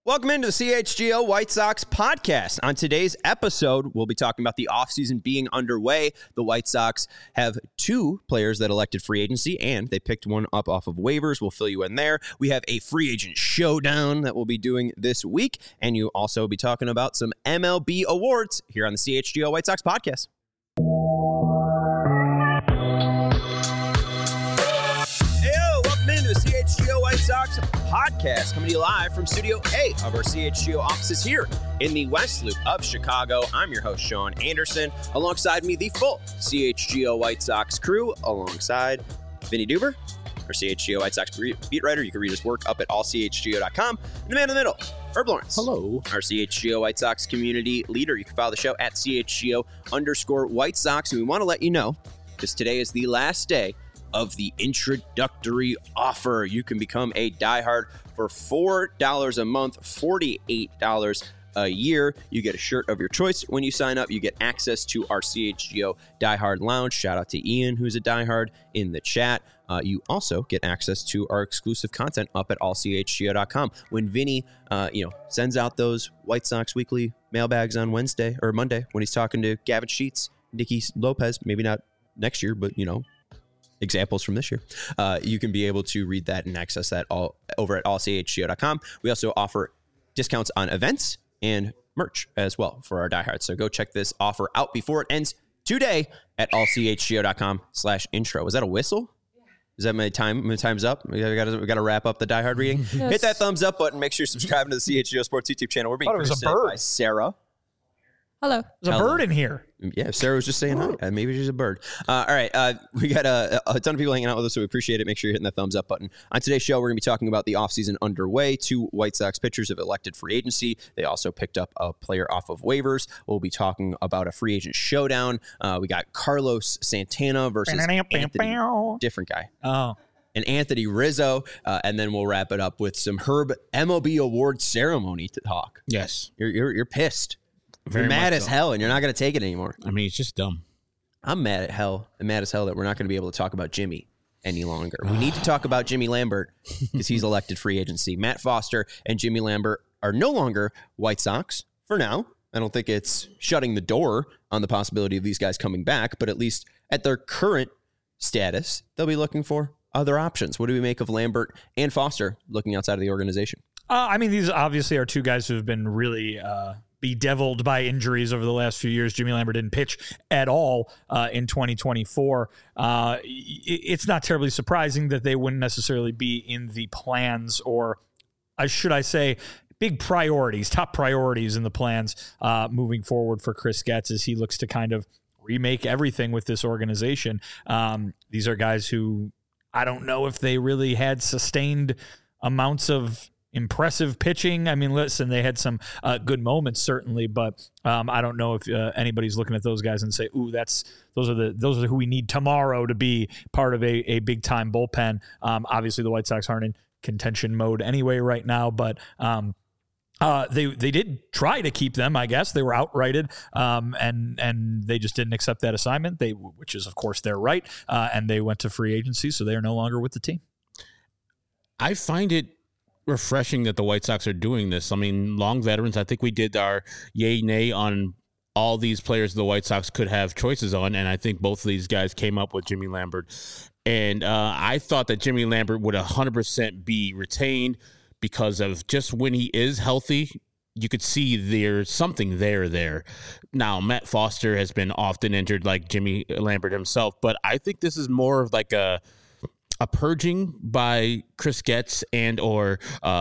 Welcome into the CHGO White Sox podcast. On today's episode, we'll be talking about the offseason being underway. The White Sox have two players that elected free agency, and they picked one up off of waivers. We'll fill you in there. We have a free agent showdown that we'll be doing this week, and you also be talking about some MLB awards here on the CHGO White Sox podcast. CHGO White Sox podcast coming to you live from Studio A of our CHGO offices here in the West Loop of Chicago. I'm your host, Sean Anderson. Alongside me, the full CHGO White Sox crew, alongside Vinny Duber, our CHGO White Sox beat writer. You can read his work up at allchgo.com. And the man in the middle, Herb Lawrence. Hello. Our CHGO White Sox community leader. You can follow the show at CHGO_White Sox. And we want to let you know, because today is the last day of the introductory offer. You can become a diehard for $4 a month, $48 a year. You get a shirt of your choice when you sign up. You get access to our CHGO Diehard Lounge. Shout out to Ian, who's a diehard in the chat. You also get access to our exclusive content up at allchgo.com. When Vinny, sends out those White Sox weekly mailbags on Wednesday or Monday, when he's talking to Gavin Sheets, Nicky Lopez, maybe not next year, but examples from this year. You can be able to read that and access that all over at allchgo.com. We also offer discounts on events and merch as well for our diehards. So go check this offer out before it ends today at allchgo.com/intro. Was that a whistle? Is that my time? My time's up. We got to wrap up the diehard reading. Yes. Hit that thumbs up button. Make sure you're subscribing to the CHGO Sports YouTube channel. We're being presented by Sarah. Hello. There's a bird in here. Yeah, Sarah was just saying hi. Maybe she's a bird. All right. We got a ton of people hanging out with us, so we appreciate it. Make sure you're hitting that thumbs up button. On today's show, we're going to be talking about the offseason underway. Two White Sox pitchers have elected free agency. They also picked up a player off of waivers. We'll be talking about a free agent showdown. We got Carlos Santana versus Anthony, different guy. Oh. And Anthony Rizzo. And then we'll wrap it up with some Herb MLB award ceremony to talk. Yes. You're pissed. You're mad as hell, and you're not going to take it anymore. I mean, it's just dumb. I'm mad at hell. I'm mad as hell that we're not going to be able to talk about Jimmy any longer. We need to talk about Jimmy Lambert because he's elected free agency. Matt Foster and Jimmy Lambert are no longer White Sox for now. I don't think it's shutting the door on the possibility of these guys coming back, but at least at their current status, they'll be looking for other options. What do we make of Lambert and Foster looking outside of the organization? These obviously are two guys who have been really bedeviled by injuries over the last few years. Jimmy Lambert didn't pitch at all in 2024. It's not terribly surprising that they wouldn't necessarily be in the plans, or should I say big priorities, top priorities in the plans moving forward for Chris Getz as he looks to kind of remake everything with this organization. These are guys who I don't know if they really had sustained amounts of impressive pitching. I mean, listen, they had some good moments certainly, but I don't know if anybody's looking at those guys and say, "Ooh, those are who we need tomorrow to be part of a big time bullpen." Obviously, the White Sox aren't in contention mode anyway right now, but they did try to keep them. I guess they were outrighted, and they just didn't accept that assignment. Which is of course their right, and they went to free agency, so they are no longer with the team. I find it refreshing that the White Sox are doing this. I mean, long veterans. I think we did our yay nay on all these players the White Sox could have choices on, and I think both of these guys came up with Jimmy Lambert. And I thought that Jimmy Lambert would 100% be retained because of just when he is healthy, you could see there's something there. Now, Matt Foster has been often injured like Jimmy Lambert himself, but I think this is more of like a purging by Chris Getz and or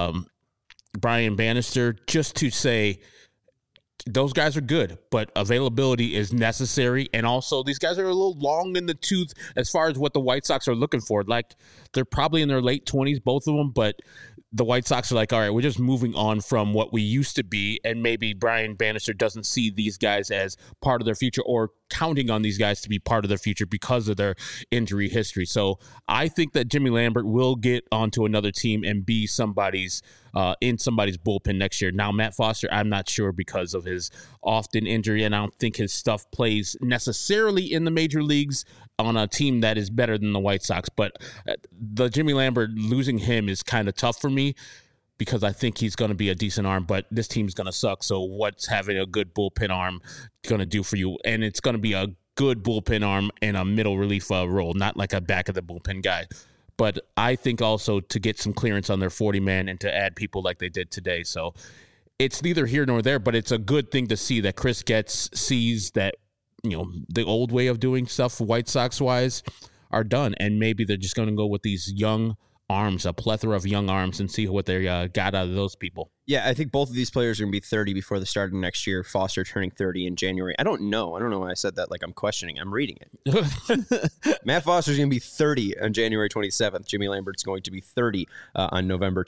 Brian Bannister just to say those guys are good, but availability is necessary. And also these guys are a little long in the tooth as far as what the White Sox are looking for. Like they're probably in their late 20s, both of them, but the White Sox are like, all right, we're just moving on from what we used to be. And maybe Brian Bannister doesn't see these guys as part of their future or counting on these guys to be part of their future because of their injury history. So I think that Jimmy Lambert will get onto another team and be somebody's in somebody's bullpen next year. Now, Matt Foster, I'm not sure because of his often injury, and I don't think his stuff plays necessarily in the major leagues on a team that is better than the White Sox. But the Jimmy Lambert, losing him is kind of tough for me. because I think he's going to be a decent arm, but this team's going to suck. So what's having a good bullpen arm going to do for you? And it's going to be a good bullpen arm in a middle relief role, not like a back of the bullpen guy. But I think also to get some clearance on their 40-man and to add people like they did today. So it's neither here nor there, but it's a good thing to see that Chris Getz sees that, the old way of doing stuff White Sox-wise are done. And maybe they're just going to go with these young arms, a plethora of young arms, and see what they got out of those people. Yeah, I think both of these players are going to be 30 before the start of next year. Foster turning 30 in January. I don't know why I said that like I'm questioning. I'm reading it. Matt Foster's going to be 30 on January 27th. Jimmy Lambert's going to be 30 on November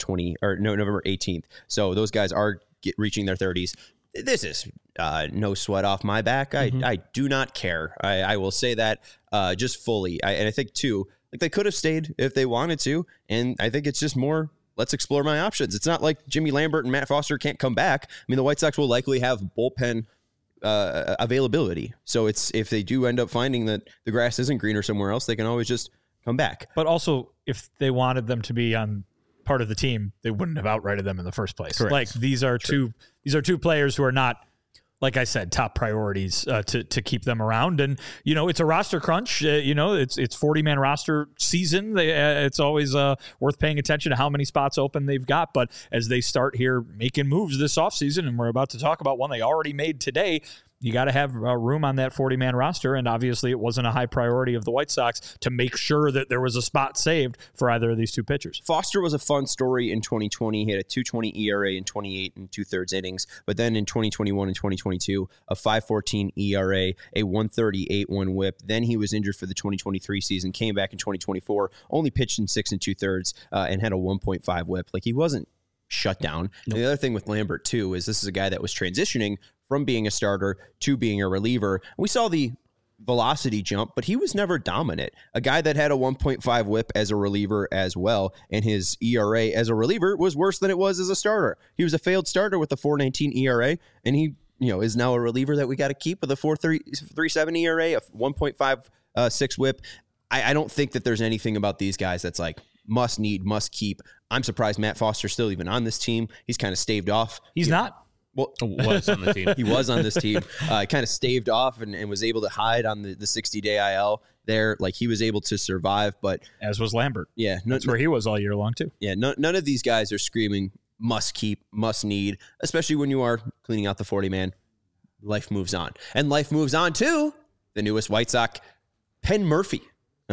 18th. So those guys are reaching their 30s. This is no sweat off my back. I do not care. I will say that just fully. And I think, too, like they could have stayed if they wanted to. And I think it's just more, let's explore my options. It's not like Jimmy Lambert and Matt Foster can't come back. I mean, the White Sox will likely have bullpen availability. So it's if they do end up finding that the grass isn't greener somewhere else, they can always just come back. But also, if they wanted them to be on part of the team, they wouldn't have outrighted them in the first place. Correct. Like these are two players who are not, like I said, top priorities to keep them around. And, it's a roster crunch. It's 40-man roster season. It's always worth paying attention to how many spots open they've got. But as they start here making moves this offseason, and we're about to talk about one they already made today, you got to have room on that 40-man roster, and obviously it wasn't a high priority of the White Sox to make sure that there was a spot saved for either of these two pitchers. Foster was a fun story in 2020. He had a 2.20 ERA in 28 and 2/3 innings, but then in 2021 and 2022, a 5.14 ERA, a 1.38 WHIP. Then he was injured for the 2023 season, came back in 2024, only pitched in 6 and 2/3, and had a 1.5 WHIP. Like he wasn't shut down. Nope. And the other thing with Lambert too is this is a guy that was transitioning from being a starter to being a reliever. We saw the velocity jump, but he was never dominant. A guy that had a 1.5 WHIP as a reliever as well, and his ERA as a reliever was worse than it was as a starter. He was a failed starter with a 4.19 ERA, and he is now a reliever that we got to keep with a 4.37 ERA, a 1.56 WHIP. I don't think that there's anything about these guys that's like must keep. I'm surprised Matt Foster's still even on this team. He's kind of staved off. He's not. Well, was on the team. He was on this team. Kind of staved off and was able to hide on the 60-day IL there. Like he was able to survive, but as was Lambert. Yeah, that's where he was all year long too. Yeah, none of these guys are screaming must keep, must need, especially when you are cleaning out the 40-man. Life moves on, and life moves on to the newest White Sox, Penn Murphy.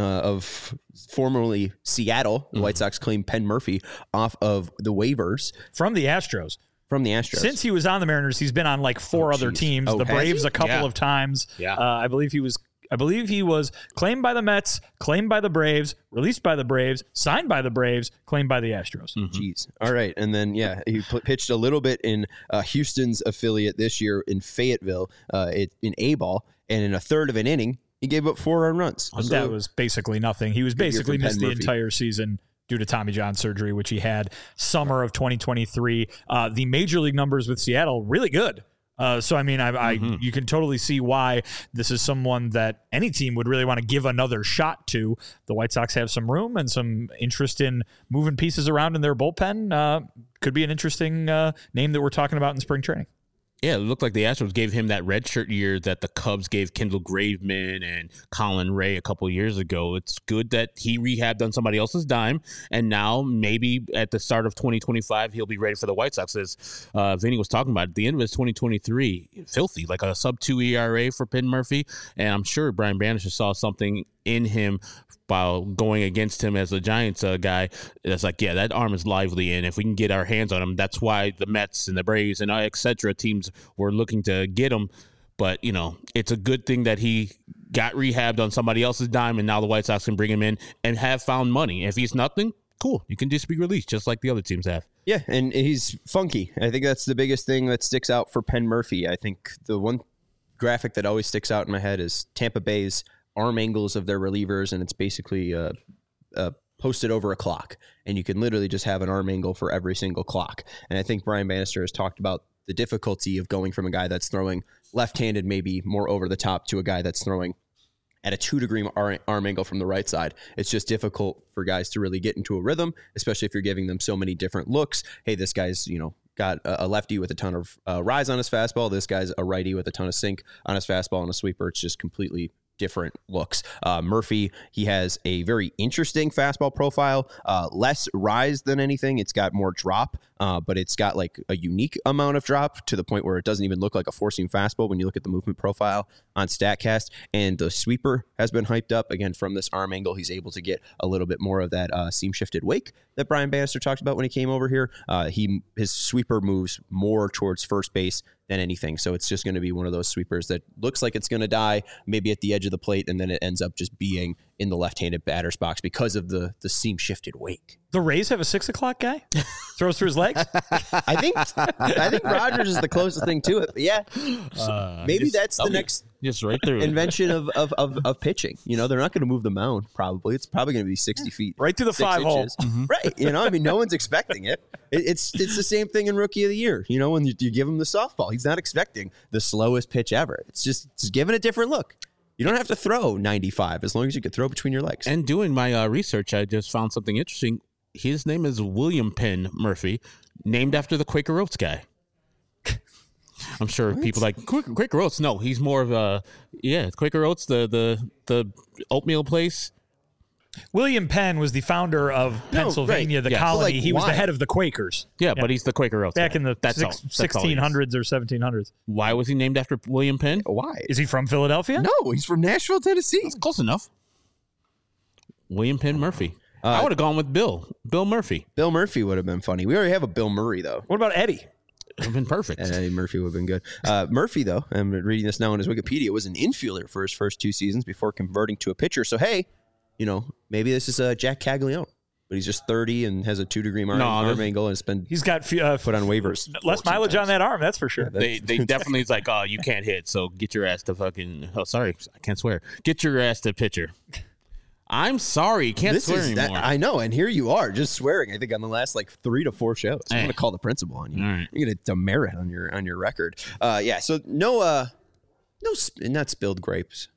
Of formerly Seattle. The White Sox claimed Penn Murphy off of the waivers from the Astros. Since he was on the Mariners, he's been on like four other teams. The Braves a couple of times. Yeah. I believe he was claimed by the Mets, claimed by the Braves, released by the Braves, signed by the Braves, claimed by the Astros. Jeez. All right. And then, he pitched a little bit in Houston's affiliate this year in Fayetteville in A-ball, and in a third of an inning, he gave up 4 earned runs. That was basically nothing. He was basically missed the entire season due to Tommy John surgery, which he had summer of 2023. The major league numbers with Seattle, really good. So, I mean, you can totally see why this is someone that any team would really want to give another shot to. The White Sox have some room and some interest in moving pieces around in their bullpen. Could be an interesting name that we're talking about in spring training. Yeah, it looked like the Astros gave him that redshirt year that the Cubs gave Kendall Graveman and Colin Ray a couple of years ago. It's good that he rehabbed on somebody else's dime, and now maybe at the start of 2025, he'll be ready for the White Sox. As Vinny was talking about, at the end of his 2023, filthy, like a sub-2 ERA for Penn Murphy, and I'm sure Brian Bannister saw something in him while going against him as a Giants guy. That's like, yeah, that arm is lively, and if we can get our hands on him, that's why the Mets and the Braves and et cetera teams were looking to get him. But, it's a good thing that he got rehabbed on somebody else's dime, and now the White Sox can bring him in and have found money. If he's nothing, cool. You can just be released just like the other teams have. Yeah, and he's funky. I think that's the biggest thing that sticks out for Penn Murphy. I think the one graphic that always sticks out in my head is Tampa Bay's arm angles of their relievers, and it's basically posted over a clock, and you can literally just have an arm angle for every single clock. And I think Brian Bannister has talked about the difficulty of going from a guy that's throwing left-handed maybe more over the top to a guy that's throwing at a 2-degree arm angle from the right side. It's just difficult for guys to really get into a rhythm, especially if you're giving them so many different looks. Hey, this guy's, got a lefty with a ton of rise on his fastball. This guy's a righty with a ton of sink on his fastball and a sweeper. It's just completely different looks. Murphy, he has a very interesting fastball profile, less rise than anything. It's got more drop, but it's got like a unique amount of drop to the point where it doesn't even look like a four-seam fastball when you look at the movement profile on StatCast. And the sweeper has been hyped up again from this arm angle. He's able to get a little bit more of that seam shifted wake that Brian Bannister talked about when he came over here. His sweeper moves more towards first base than anything. So it's just going to be one of those sweepers that looks like it's going to die maybe at the edge of the plate, and then it ends up just being in the left-handed batter's box because of the seam shifted wake. The Rays have a 6 o'clock guy? Throws through his legs? I think Rogers is the closest thing to it. But yeah, maybe that's the next just right through invention of pitching. They're not going to move the mound. Probably it's probably going to be 60 feet, right through the 5 hole. Mm-hmm. Right. No one's expecting it. It's the same thing in Rookie of the Year. When you give him the softball, he's not expecting the slowest pitch ever. It's just giving a different look. You don't have to throw 95 as long as you can throw between your legs. And doing my research, I just found something interesting. His name is William Penn Murphy, named after the Quaker Oats guy. I'm sure people like Quaker Oats. No, he's more of a Quaker Oats, the oatmeal place. William Penn was the founder of Pennsylvania, the colony. He was the head of the Quakers. Yeah, but he's the Quaker Oats back guy. in the 1600s or 1700s. Why was he named after William Penn? Why? Is he from Philadelphia? No, he's from Nashville, Tennessee. That's close enough. William Penn Murphy. I would have gone with Bill Murphy. Bill Murphy would have been funny. We already have a Bill Murray, though. What about Eddie? Would have been perfect. Eddie Murphy would have been good. Murphy, though, I'm reading this now on his Wikipedia, was an infielder for his first 2 seasons before converting to a pitcher. So, hey, maybe this is Jack Caglione, but he's just 30 and has a 2-degree arm angle, and he's got put on waivers. Less mileage on that arm, that's for sure. They definitely is like, oh, you can't hit, so get your ass to fucking. Oh, sorry, I can't swear. Get your ass to pitcher. I'm sorry, can't swear anymore. I know, and here you are just swearing. I think on the last 3 to 4 shows, I'm going to call the principal on you. Right. You're going to demerit on your record. So no, not spilled grapes.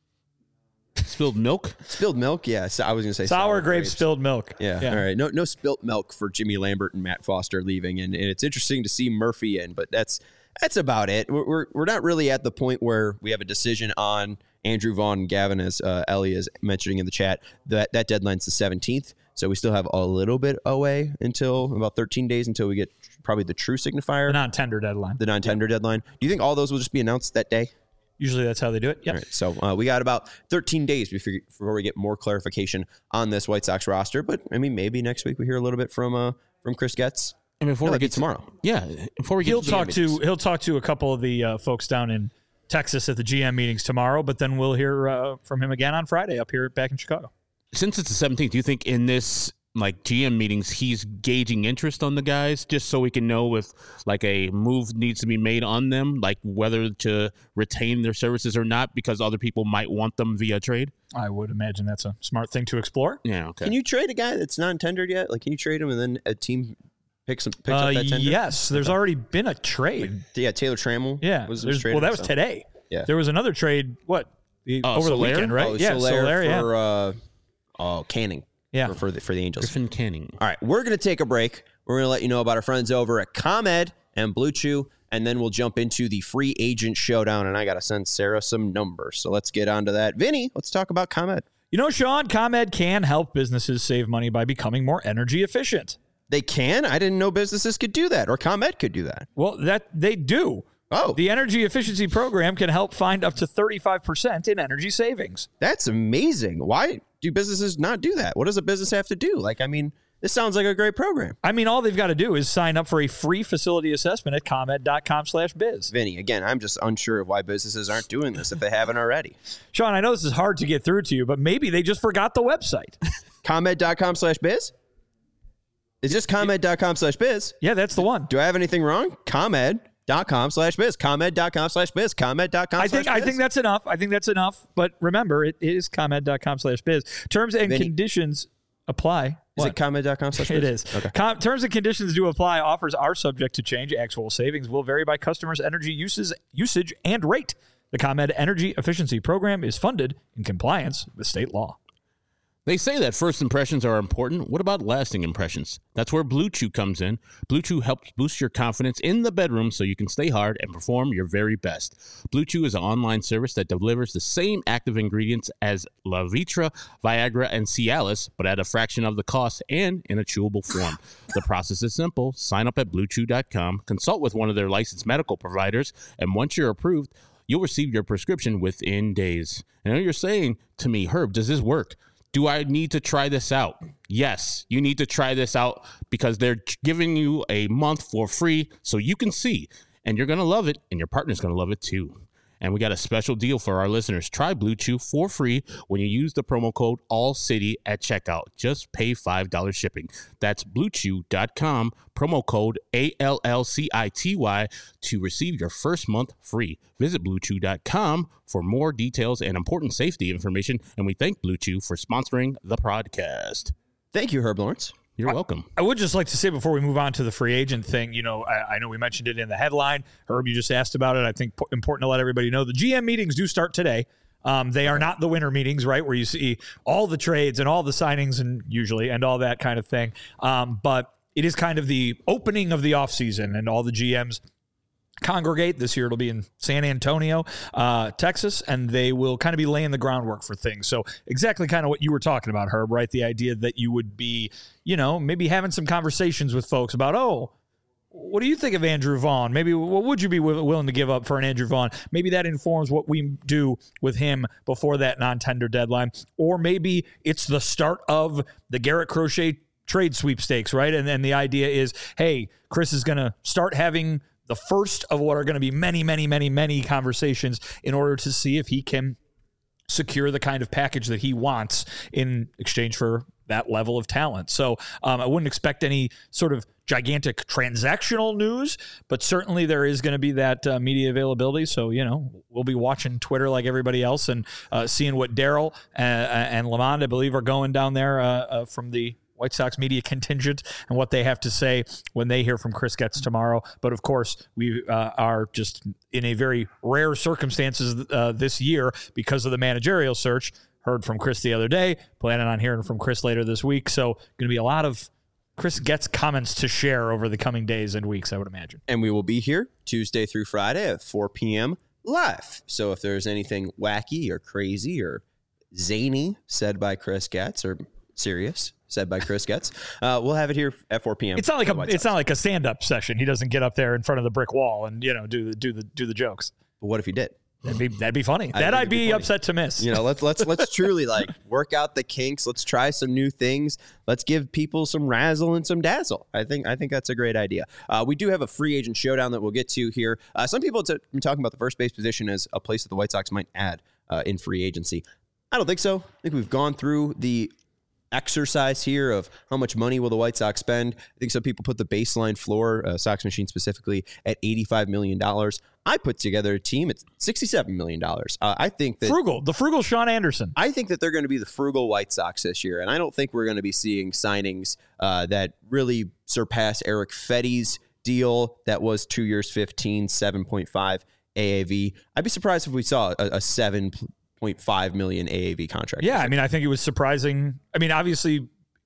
Spilled milk? Spilled milk, yeah. So I was going to say sour grapes, spilled milk. Yeah, all right. No spilt milk for Jimmy Lambert and Matt Foster leaving, and it's interesting to see Murphy in, but that's about it. We're not really at the point where we have a decision on Andrew Vaughn and Gavin, as Ellie is mentioning in the chat. That deadline's the 17th, so we still have a little bit away until about 13 days until we get probably the true signifier. The non-tender deadline. The non-tender deadline. Do you think all those will just be announced that day? Usually that's how they do it. Yeah. Right, so we got about 13 days before we get more clarification on this White Sox roster. But I mean, maybe next week we hear a little bit from Chris Getz. And before we get tomorrow, before we get he'll talk to a couple of the folks down in Texas at the GM meetings tomorrow. But then we'll hear from him again on Friday up here back in Chicago. Since it's the 17th, do you think in this GM meetings he's gauging interest on the guys just so we can know if a move needs to be made on them, whether to retain their services or not because other people might want them via trade? I would imagine that's a smart thing to explore. Yeah, okay. Can you trade a guy that's not tendered yet? Can you trade him and then a team picks up that tender? Yes, there's already been a trade. Taylor Trammell. Yeah, was traded, that was today. Yeah, there was another trade. Over the weekend, right? Soler for Canning. Yeah, for the Angels. Griffin Canning. All right, we're going to take a break. We're going to let you know about our friends over at ComEd and Blue Chew, and then we'll jump into the free agent showdown, and I got to send Sarah some numbers. So let's get on to that. Vinny, let's talk about ComEd. Sean, ComEd can help businesses save money by becoming more energy efficient. They can? I didn't know businesses could do that, or ComEd could do that. Well, that they do. Oh. The energy efficiency program can help find up to 35% in energy savings. That's amazing. Why do businesses not do that? What does a business have to do? This sounds like a great program. All they've got to do is sign up for a free facility assessment at ComEd.com/biz. Vinny, again, I'm just unsure of why businesses aren't doing this if they haven't already. Sean, I know this is hard to get through to you, but maybe they just forgot the website. ComEd.com/biz? It's just ComEd.com/biz. Yeah, that's the one. Do I have anything wrong? ComEd.com/biz. ComEd.com/biz. ComEd.com/biz. I think that's enough. But remember, it is ComEd.com/biz. Terms and conditions apply. Is it ComEd.com/biz? It is. Okay. Terms and conditions do apply. Offers are subject to change. Actual savings will vary by customers' energy usage and rate. The ComEd Energy Efficiency Program is funded in compliance with state law. They say that first impressions are important. What about lasting impressions? That's where Blue Chew comes in. Blue Chew helps boost your confidence in the bedroom so you can stay hard and perform your very best. Blue Chew is an online service that delivers the same active ingredients as Levitra, Viagra, and Cialis, but at a fraction of the cost and in a chewable form. The process is simple. Sign up at BlueChew.com, consult with one of their licensed medical providers, and once you're approved, you'll receive your prescription within days. And I know you're saying to me, Herb, does this work? Do I need to try this out? Yes, you need to try this out because they're giving you a month for free so you can see. And you're going to love it, and your partner's going to love it too. And we got a special deal for our listeners. Try Blue Chew for free when you use the promo code ALLCITY at checkout. Just pay $5 shipping. That's BlueChew.com, promo code ALLCITY to receive your first month free. Visit BlueChew.com for more details and important safety information. And we thank Blue Chew for sponsoring the podcast. Thank you, Herb Lawrence. You're welcome. I would just like to say before we move on to the free agent thing, I know we mentioned it in the headline. Herb, you just asked about it. I think important to let everybody know the GM meetings do start today. They are not the winter meetings, right, where you see all the trades and all the signings and all that kind of thing. But it is kind of the opening of the offseason, and all the GMs congregate. This year it'll be in San Antonio, Texas, and they will kind of be laying the groundwork for things. So exactly kind of what you were talking about, Herb, right? The idea that you would be, maybe having some conversations with folks about, what do you think of Andrew Vaughn? Maybe what would you be willing to give up for an Andrew Vaughn? Maybe that informs what we do with him before that non-tender deadline. Or maybe it's the start of the Garrett Crochet trade sweepstakes, right? And then the idea is, hey, Chris is going to start having the first of what are going to be many, many, many, many conversations in order to see if he can secure the kind of package that he wants in exchange for that level of talent. So I wouldn't expect any sort of gigantic transactional news, but certainly there is going to be that media availability. So, we'll be watching Twitter like everybody else and seeing what Daryl and Lamond, I believe, are going down there from the White Sox media contingent and what they have to say when they hear from Chris Getz tomorrow. But of course, we are just in a very rare circumstances this year because of the managerial search. Heard from Chris the other day, planning on hearing from Chris later this week. So going to be a lot of Chris Getz comments to share over the coming days and weeks, I would imagine. And we will be here Tuesday through Friday at 4 p.m. live. So if there's anything wacky or crazy or zany said by Chris Getz or serious said by Chris Getz, we'll have it here at 4 p.m. It's not like a stand-up session. He doesn't get up there in front of the brick wall and do the jokes. But what if he did? That'd be funny. I'd be upset to miss. Let's truly work out the kinks. Let's try some new things. Let's give people some razzle and some dazzle. I think that's a great idea. We do have a free agent showdown that we'll get to here. Some people have been talking about the first base position as a place that the White Sox might add in free agency. I don't think so. I think we've gone through the exercise here of how much money will the White Sox spend. I think some people put the baseline floor, Sox Machine specifically, at $85 million. I put together a team at $67 million. I think that the frugal Sean Anderson. I think that they're going to be the frugal White Sox this year, and I don't think we're going to be seeing signings that really surpass Eric Fetty's deal that was 2 years, 7.5 AAV. I'd be surprised if we saw a 7.5 million AAV contract. Yeah, I think it was surprising. Obviously,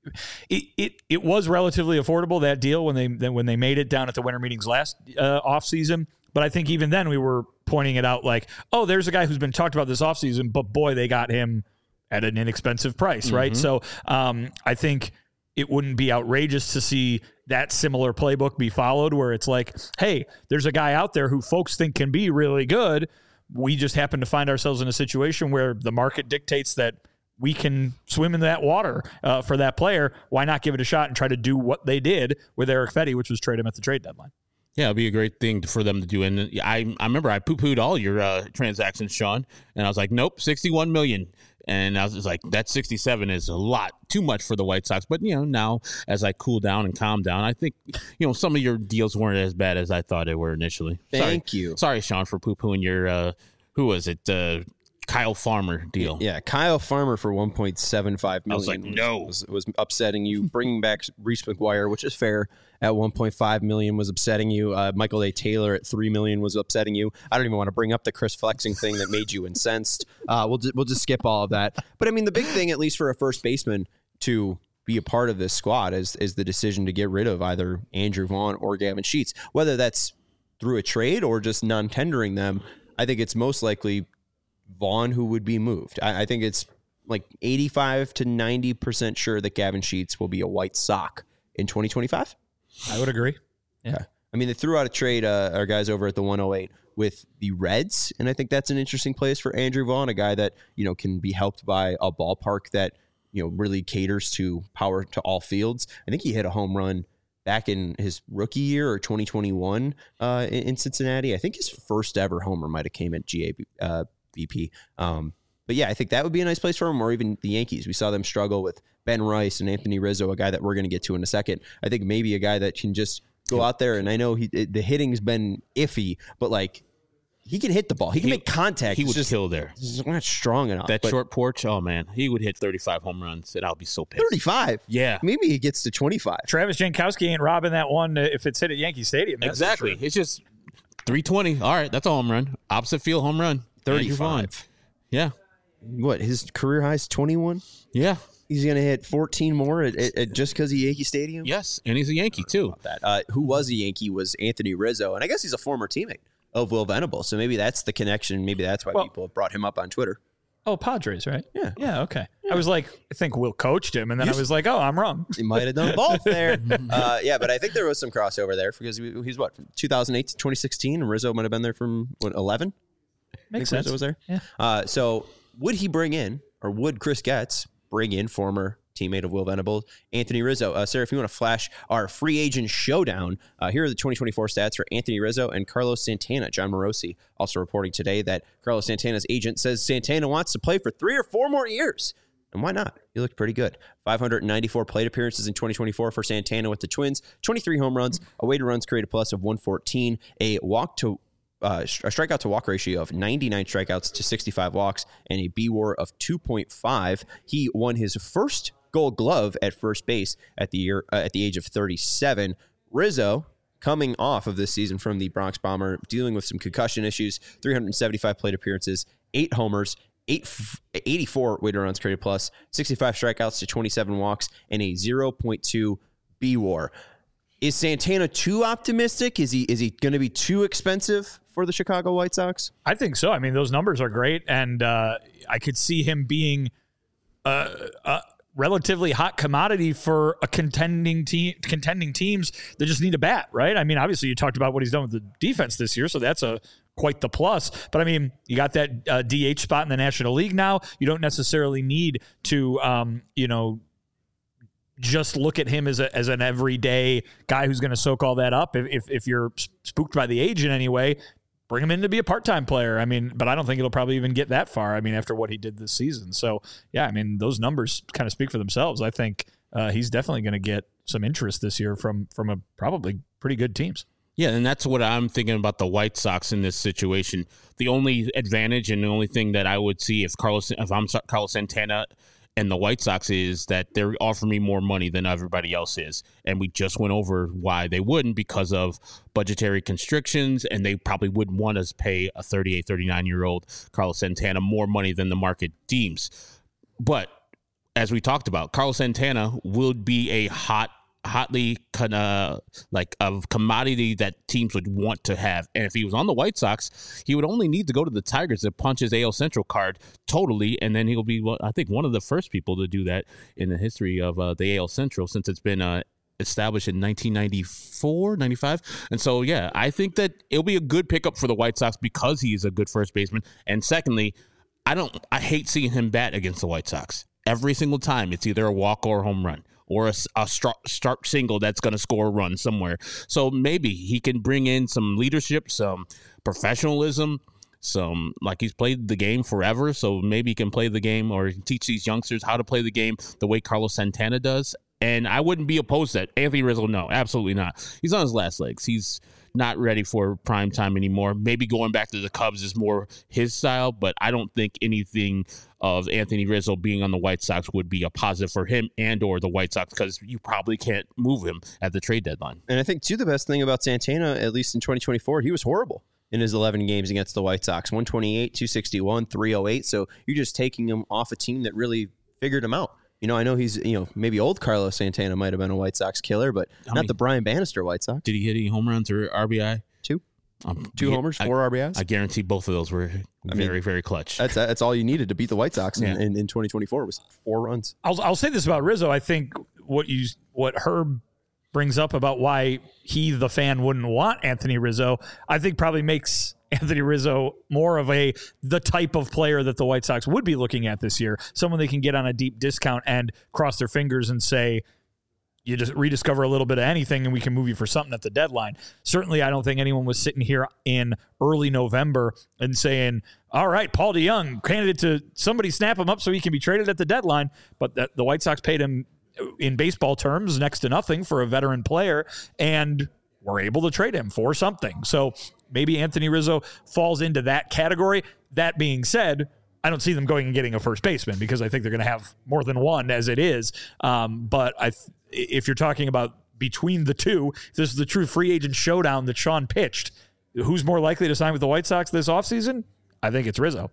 it was relatively affordable, that deal, when they made it down at the winter meetings last offseason. But I think even then we were pointing it out like, oh, there's a guy who's been talked about this offseason, but boy, they got him at an inexpensive price, right? Mm-hmm. So I think it wouldn't be outrageous to see that similar playbook be followed, where it's like, hey, there's a guy out there who folks think can be really good. We just happen to find ourselves in a situation where the market dictates that we can swim in that water for that player. Why not give it a shot and try to do what they did with Eric Fetty, which was trade him at the trade deadline? Yeah, it'd be a great thing for them to do. And I remember I poo-pooed all your transactions, Sean, and I was like, nope, $61 million. And I was just like, that 67 is a lot, too much for the White Sox. But, now as I cool down and calm down, I think, some of your deals weren't as bad as I thought they were initially. Thank you. Sorry, Sean, for poo-pooing your, who was it? Kyle Farmer deal. Yeah, Kyle Farmer for $1.75 million. I was like, no. Was upsetting you. Bringing back Reese McGuire, which is fair, at $1.5 million was upsetting you. Michael A. Taylor at $3 million was upsetting you. I don't even want to bring up the Chris Flexing thing that made you incensed. We'll just skip all of that. But I mean, the big thing, at least for a first baseman to be a part of this squad, is the decision to get rid of either Andrew Vaughn or Gavin Sheets, whether that's through a trade or just non-tendering them. I think it's most likely Vaughn who would be moved. I think it's like 85 to 90% sure that Gavin Sheets will be a White Sox in 2025. I would agree. Yeah. Okay. I mean, they threw out a trade, our guys over at the 108 with the Reds, and I think that's an interesting place for Andrew Vaughn, a guy that, can be helped by a ballpark that, really caters to power to all fields. I think he hit a home run back in his rookie year or 2021 in Cincinnati. I think his first ever homer might have came at BP. But yeah, I think that would be a nice place for him, or even the Yankees. We saw them struggle with Ben Rice and Anthony Rizzo, a guy that we're going to get to in a second. I think maybe a guy that can just go out there, and I know the hitting's been iffy, but like he can hit the ball. He can make contact. He would kill there. He's not strong enough. That short porch, oh man, he would hit 35 home runs, and I'll be so pissed. 35? Yeah. Maybe he gets to 25. Travis Jankowski ain't robbing that one if it's hit at Yankee Stadium. Exactly. It's just 320. All right, that's a home run. Opposite field home run. 35. Yeah. What, his career high is 21? Yeah. He's going to hit 14 more at just because of Yankee Stadium? Yes, and he's a Yankee, too. Who was a Yankee was Anthony Rizzo, and I guess he's a former teammate of Will Venable, so maybe that's the connection. Maybe that's why people have brought him up on Twitter. Oh, Padres, right? Yeah. Yeah, okay. Yeah. I was like, I think Will coached him, and then I was like, oh, I'm wrong. He might have done both there. Yeah, but I think there was some crossover there because he's what, from 2008 to 2016, and Rizzo might have been there from, 11? Makes sense. Rizzo was there? Yeah. So would he bring in, or would Chris Getz bring in former teammate of Will Venable, Anthony Rizzo? Sarah, if you want to flash our free agent showdown, here are the 2024 stats for Anthony Rizzo and Carlos Santana. John Morosi also reporting today that Carlos Santana's agent says Santana wants to play for 3 or 4 more years. And why not? He looked pretty good. 594 plate appearances in 2024 for Santana with the Twins, 23 home runs, a weighted runs created plus of 114, a strikeout to walk ratio of 99 strikeouts to 65 walks, and a BWAR of 2.5. He won his first Gold Glove at first base at the age of 37. Rizzo, coming off of this season from the Bronx Bomber, dealing with some concussion issues, 375 plate appearances, 8 homers, 84 weighted runs created plus, 65 strikeouts to 27 walks, and a 0.2 BWAR. Is Santana too optimistic? Is he going to be too expensive for the Chicago White Sox? I think so. I mean, those numbers are great, and I could see him being a relatively hot commodity for a contending teams that just need a bat, right? I mean, obviously, you talked about what he's done with the defense this year, so that's quite the plus. But I mean, you got that DH spot in the National League now. You don't necessarily need to, just look at him as an everyday guy who's going to soak all that up. If you're spooked by the age in any way, bring him in to be a part-time player. I mean, but I don't think it'll probably even get that far. I mean, after what he did this season. So yeah, I mean, those numbers kind of speak for themselves. I think he's definitely going to get some interest this year from a probably pretty good teams. Yeah, and that's what I'm thinking about the White Sox in this situation. The only advantage and the only thing that I would see if I'm Carlos Santana and the White Sox is that they're offering me more money than everybody else is. And we just went over why they wouldn't, because of budgetary constrictions, and they probably wouldn't want to pay a 38, 39-year-old Carlos Santana more money than the market deems. But as we talked about, Carlos Santana would be a hotly kind of like a commodity that teams would want to have. And if he was on the White Sox, he would only need to go to the Tigers to punch his AL Central card totally, and then he'll be, I think, one of the first people to do that in the history of the AL Central since it's been established in 1994, 95. And so, yeah, I think that it'll be a good pickup for the White Sox because he's a good first baseman. And secondly, I hate seeing him bat against the White Sox. Every single time, it's either a walk or a home run, or a start single that's going to score a run somewhere. So maybe he can bring in some leadership, some professionalism, like he's played the game forever. So maybe he can play the game or teach these youngsters how to play the game the way Carlos Santana does. And I wouldn't be opposed to that. Anthony Rizzo, no, absolutely not. He's on his last legs. He's not ready for prime time anymore. Maybe going back to the Cubs is more his style, but I don't think anything of Anthony Rizzo being on the White Sox would be a positive for him and or the White Sox, because you probably can't move him at the trade deadline. And I think, too, the best thing about Santana, at least in 2024, he was horrible in his 11 games against the White Sox. 128, 261, 308. So you're just taking him off a team that really figured him out. I know he's, maybe old Carlos Santana might have been a White Sox killer, but not the Brian Bannister White Sox. Did he hit any home runs or RBI? Two. Two homers, 4 RBIs. I guarantee both of those were very, very clutch. That's all you needed to beat the White Sox in 2024 was 4 runs. I'll say this about Rizzo. I think what Herb brings up about why he, the fan, wouldn't want Anthony Rizzo, I think probably makes Anthony Rizzo more of the type of player that the White Sox would be looking at this year. Someone they can get on a deep discount and cross their fingers and say, you just rediscover a little bit of anything and we can move you for something at the deadline. Certainly, I don't think anyone was sitting here in early November and saying, all right, Paul DeJong, candidate to somebody snap him up so he can be traded at the deadline. But the White Sox paid him, in baseball terms, next to nothing for a veteran player, and were able to trade him for something. So maybe Anthony Rizzo falls into that category. That being said, I don't see them going and getting a first baseman because I think they're going to have more than one as it is. But if you're talking about between the two, if this is the true free agent showdown that Sean pitched, who's more likely to sign with the White Sox this offseason? I think it's Rizzo.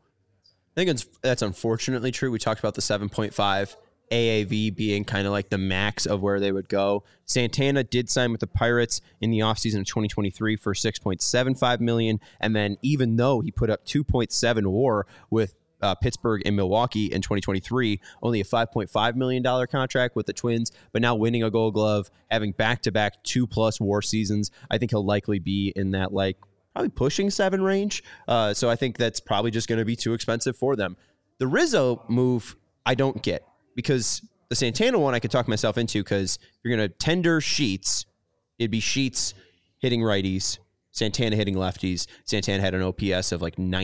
I think that's unfortunately true. We talked about the 7.5 AAV being kind of like the max of where they would go. Santana did sign with the Pirates in the offseason of 2023 for $6.75 million. And then even though he put up 2.7 WAR with Pittsburgh and Milwaukee in 2023, only a $5.5 million contract with the Twins, but now winning a Gold Glove, having back-to-back 2+ WAR seasons, I think he'll likely be in that probably pushing 7 range. So I think that's probably just going to be too expensive for them. The Rizzo move, I don't get, because the Santana one I could talk myself into, because if you're going to tender Sheets, it'd be Sheets hitting righties, Santana hitting lefties. Santana had an OPS of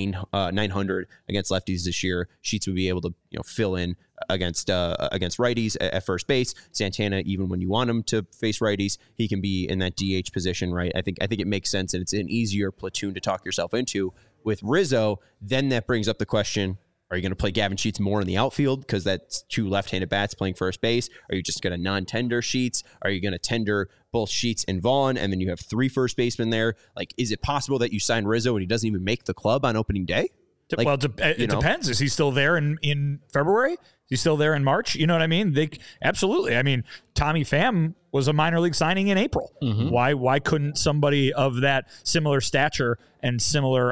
900 against lefties this year. Sheets would be able to fill in against righties at first base. Santana, even when you want him to face righties, he can be in that DH position, right? I think it makes sense, and it's an easier platoon to talk yourself into. With Rizzo, then that brings up the question, are you going to play Gavin Sheets more in the outfield because that's 2 left-handed bats playing first base? Are you just going to non-tender Sheets? Are you going to tender both Sheets and Vaughn, and then you have 3 first basemen there? Is it possible that you sign Rizzo and he doesn't even make the club on opening day? Well, it depends. Is he still there in February? Is he still there in March? You know what I mean? Absolutely. I mean, Tommy Pham was a minor league signing in April. Mm-hmm. Why couldn't somebody of that similar stature and similar,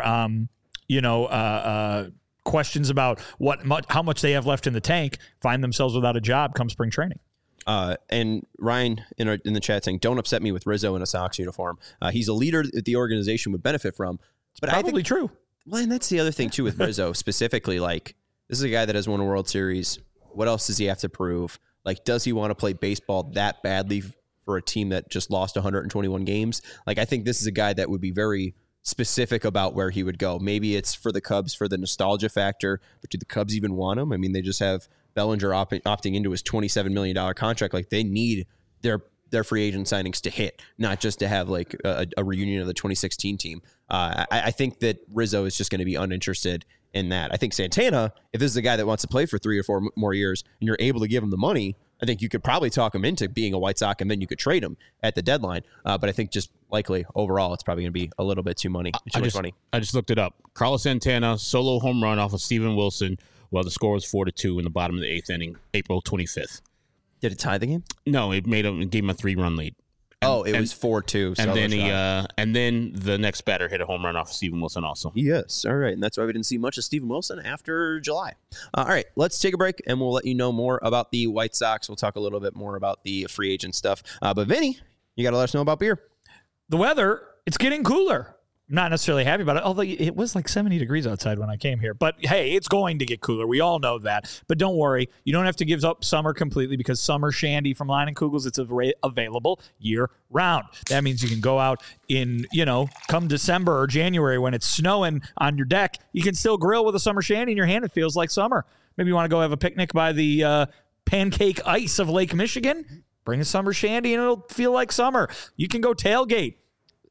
questions about how much they have left in the tank find themselves without a job come spring training? And Ryan in the chat saying, don't upset me with Rizzo in a Sox uniform. He's a leader that the organization would benefit from. But probably I think, true. Well, and that's the other thing, too, with Rizzo specifically. This is a guy that has won a World Series. What else does he have to prove? Does he want to play baseball that badly for a team that just lost 121 games? I think this is a guy that would be very specific about where he would go. Maybe it's for the Cubs for the nostalgia factor, but do the Cubs even want him? I mean, they just have Bellinger opting into his $27 million contract. They need their free agent signings to hit, not just to have a reunion of the 2016 team. I think that Rizzo is just going to be uninterested in that. I think Santana, if this is a guy that wants to play for 3 or 4 more years and you're able to give him the money, I think you could probably talk him into being a White Sox, and then you could trade him at the deadline. But I think just likely overall, it's probably going to be a little bit too much money. I just looked it up. Carlos Santana, solo home run off of Steven Wilson, while the score was 4-2 in the bottom of the 8th inning, April 25th. Did it tie the game? No, it gave him a 3-run lead. It was 4-2. And then the next batter hit a home run off of Steven Wilson also. Yes, all right, and that's why we didn't see much of Steven Wilson after July. All right, let's take a break, and we'll let you know more about the White Sox. We'll talk a little bit more about the free agent stuff. But Vinny, you got to let us know about beer. The weather, it's getting cooler. I'm not necessarily happy about it, although it was 70 degrees outside when I came here. But, hey, it's going to get cooler. We all know that. But don't worry. You don't have to give up summer completely because Summer Shandy from Line & Kugels, it's available year-round. That means you can go out in, come December or January when it's snowing on your deck, you can still grill with a Summer Shandy in your hand. It feels like summer. Maybe you want to go have a picnic by the pancake ice of Lake Michigan. Bring a Summer Shandy and it'll feel like summer. You can go tailgate.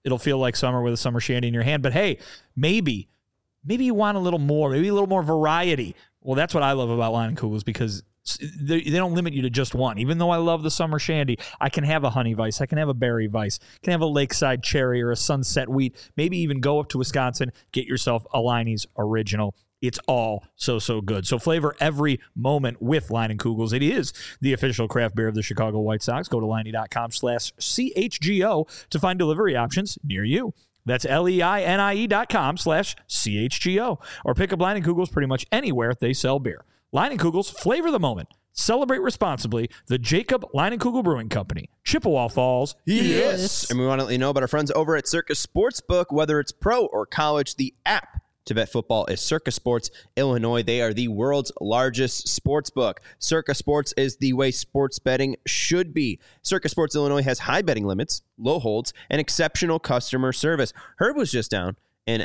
It'll feel like summer with a summer shandy in your hand. But hey, maybe you want a little more, maybe a little more variety. Well, that's what I love about Leinenkugels, because they don't limit you to just one. Even though I love the summer shandy, I can have a honey vice, I can have a berry vice, I can have a lakeside cherry or a sunset wheat. Maybe even go up to Wisconsin, get yourself a Leine's Original. It's all so good. So flavor every moment with Leinenkugels. It is the official craft beer of the Chicago White Sox. Go to Leine.com/CHGO to find delivery options near you. That's LEINIE.com/CHGO. Or pick up Leinenkugels pretty much anywhere they sell beer. Leinenkugels, flavor the moment. Celebrate responsibly. The Jacob Leinenkugel Brewing Company, Chippewa Falls. Yes. And we want to let you know about our friends over at Circus Sportsbook. Whether it's pro or college, the app to bet football is Circus Sports Illinois. They are the world's largest sports book. Circus Sports is the way sports betting should be. Circus Sports Illinois has high betting limits, low holds, and exceptional customer service. Herb was just down in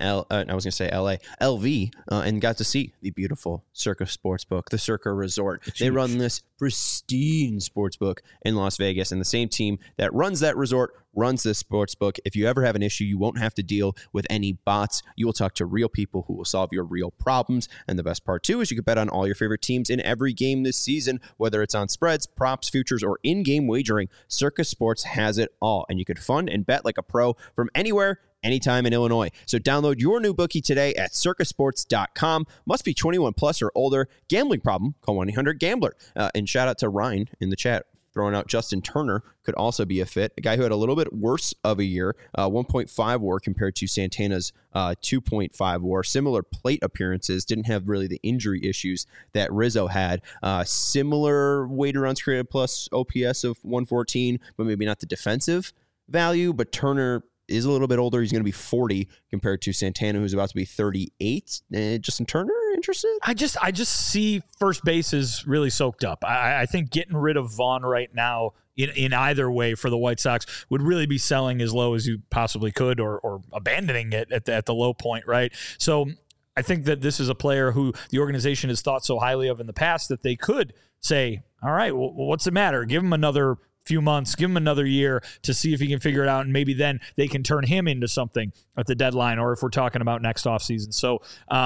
LV, and got to see the beautiful Circus Sportsbook, the Circa Resort. They run this pristine sportsbook in Las Vegas, and the same team that runs that resort runs this sportsbook. If you ever have an issue, you won't have to deal with any bots. You will talk to real people who will solve your real problems. And the best part, too, is you can bet on all your favorite teams in every game this season, whether it's on spreads, props, futures, or in-game wagering. Circus Sports has it all, and you can fund and bet like a pro from anywhere, anytime in Illinois. So download your new bookie today at circusports.com. Must be 21 plus or older. Gambling problem? Call 1-800-GAMBLER. And shout out to Ryan in the chat, throwing out Justin Turner could also be a fit. A guy who had a little bit worse of a year, 1.5 WAR compared to Santana's 2.5 WAR. Similar plate appearances, didn't have really the injury issues that Rizzo had. Similar weighted runs created plus OPS of 114, but maybe not the defensive value. But Turner is a little bit older. He's going to be 40 compared to Santana, who's about to be 38. Justin Turner, interested? I just see first base is really soaked up. I think getting rid of Vaughn right now in either way for the White Sox would really be selling as low as you possibly could, or abandoning it at the low point, right? So I think that this is a player who the organization has thought so highly of in the past that they could say, all right, well, what's the matter? Give him another few months, give him another year to see if he can figure it out, and maybe then they can turn him into something at the deadline, or if we're talking about next offseason. So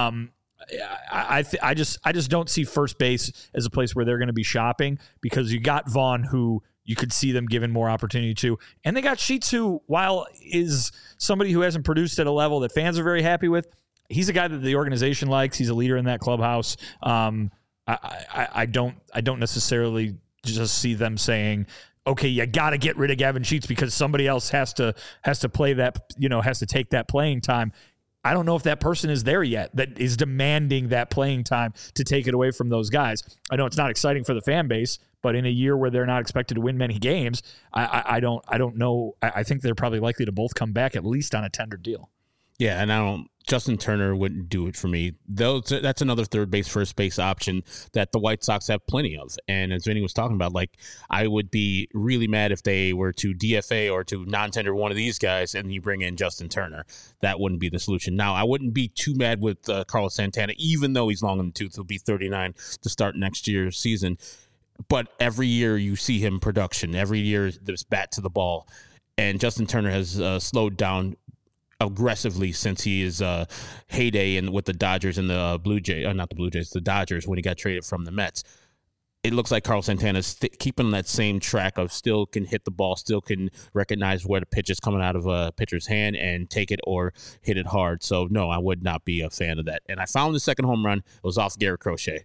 I just don't see first base as a place where they're going to be shopping, because you got Vaughn, who you could see them giving more opportunity to, and they got Sheets, who, while is somebody who hasn't produced at a level that fans are very happy with, he's a guy that the organization likes. He's a leader in that clubhouse. I don't necessarily just see them saying, okay, you got to get rid of Gavin Sheets because somebody else has to play that, has to take that playing time. I don't know if that person is there yet that is demanding that playing time to take it away from those guys. I know it's not exciting for the fan base, but in a year where they're not expected to win many games, I don't know. I think they're probably likely to both come back at least on a tender deal. Yeah, and Justin Turner wouldn't do it for me. That's another third base, first base option that the White Sox have plenty of. And as Vinny was talking about, I would be really mad if they were to DFA or to non-tender one of these guys and you bring in Justin Turner. That wouldn't be the solution. Now, I wouldn't be too mad with Carlos Santana, even though he's long in the tooth. He'll be 39 to start next year's season. But every year you see him production. Every year there's bat to the ball. And Justin Turner has slowed down aggressively since his heyday with the Dodgers and the the Dodgers when he got traded from the Mets. It looks like Carlos Santana's keeping that same track of still can hit the ball, still can recognize where the pitch is coming out of a pitcher's hand and take it or hit it hard. So, no, I would not be a fan of that. And I found the second home run. It was off Garrett Crochet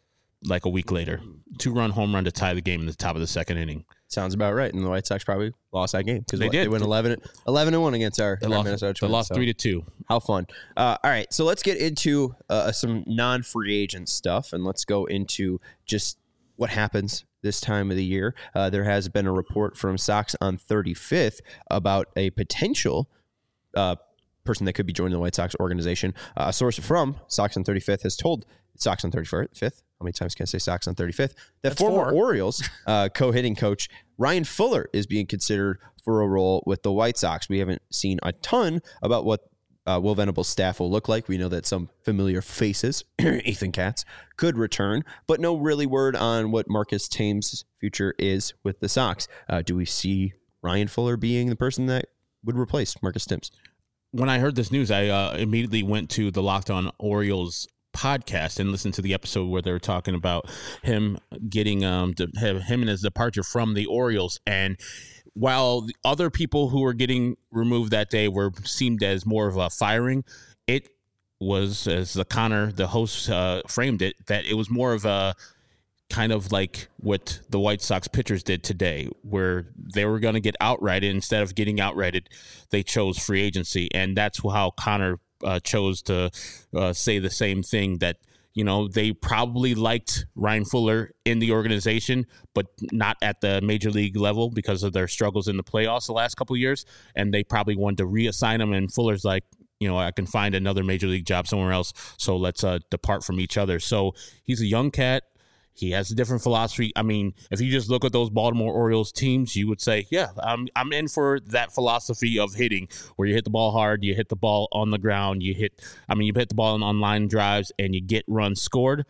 a week later. 2-run home run to tie the game in the top of the second inning. Sounds about right. And the White Sox probably lost that game because they did. They went 11-1 against our Minnesota Twins. They lost 3-2. How fun. All right. So let's get into some non-free agent stuff, and let's go into just what happens this time of the year. There has been a report from Sox on 35th about a potential person that could be joining the White Sox organization. A source from Sox on 35th has told Sox on 35th, how many times can I say Sox on 35th? That That's former 4. Orioles co-hitting coach Ryan Fuller is being considered for a role with the White Sox. We haven't seen a ton about what Will Venable's staff will look like. We know that some familiar faces, Ethan Katz, could return, but no really word on what Marcus Thames' future is with the Sox. Do we see Ryan Fuller being the person that would replace Marcus Thames. When I heard this news, I immediately went to the Locked On Orioles podcast and listened to the episode where they were talking about him getting him and his departure from the Orioles. And while the other people who were getting removed that day seemed as more of a firing, it was, as the host framed it, that it was more of a kind of like what the White Sox pitchers did today, where they were going to get outrighted. Instead of getting outrighted, they chose free agency. And that's how Connor chose to say the same thing, that, you know, they probably liked Ryan Fuller in the organization, but not at the major league level because of their struggles in the playoffs the last couple of years. And they probably wanted to reassign him. And Fuller's like, you know, I can find another major league job somewhere else, so let's depart from each other. So he's a young cat. He has a different philosophy. I mean, if you just look at those Baltimore Orioles teams, you would say, yeah, I'm in for that philosophy of hitting, where you hit the ball hard, you hit the ball on the ground, you hit the ball on line drives, and you get runs scored.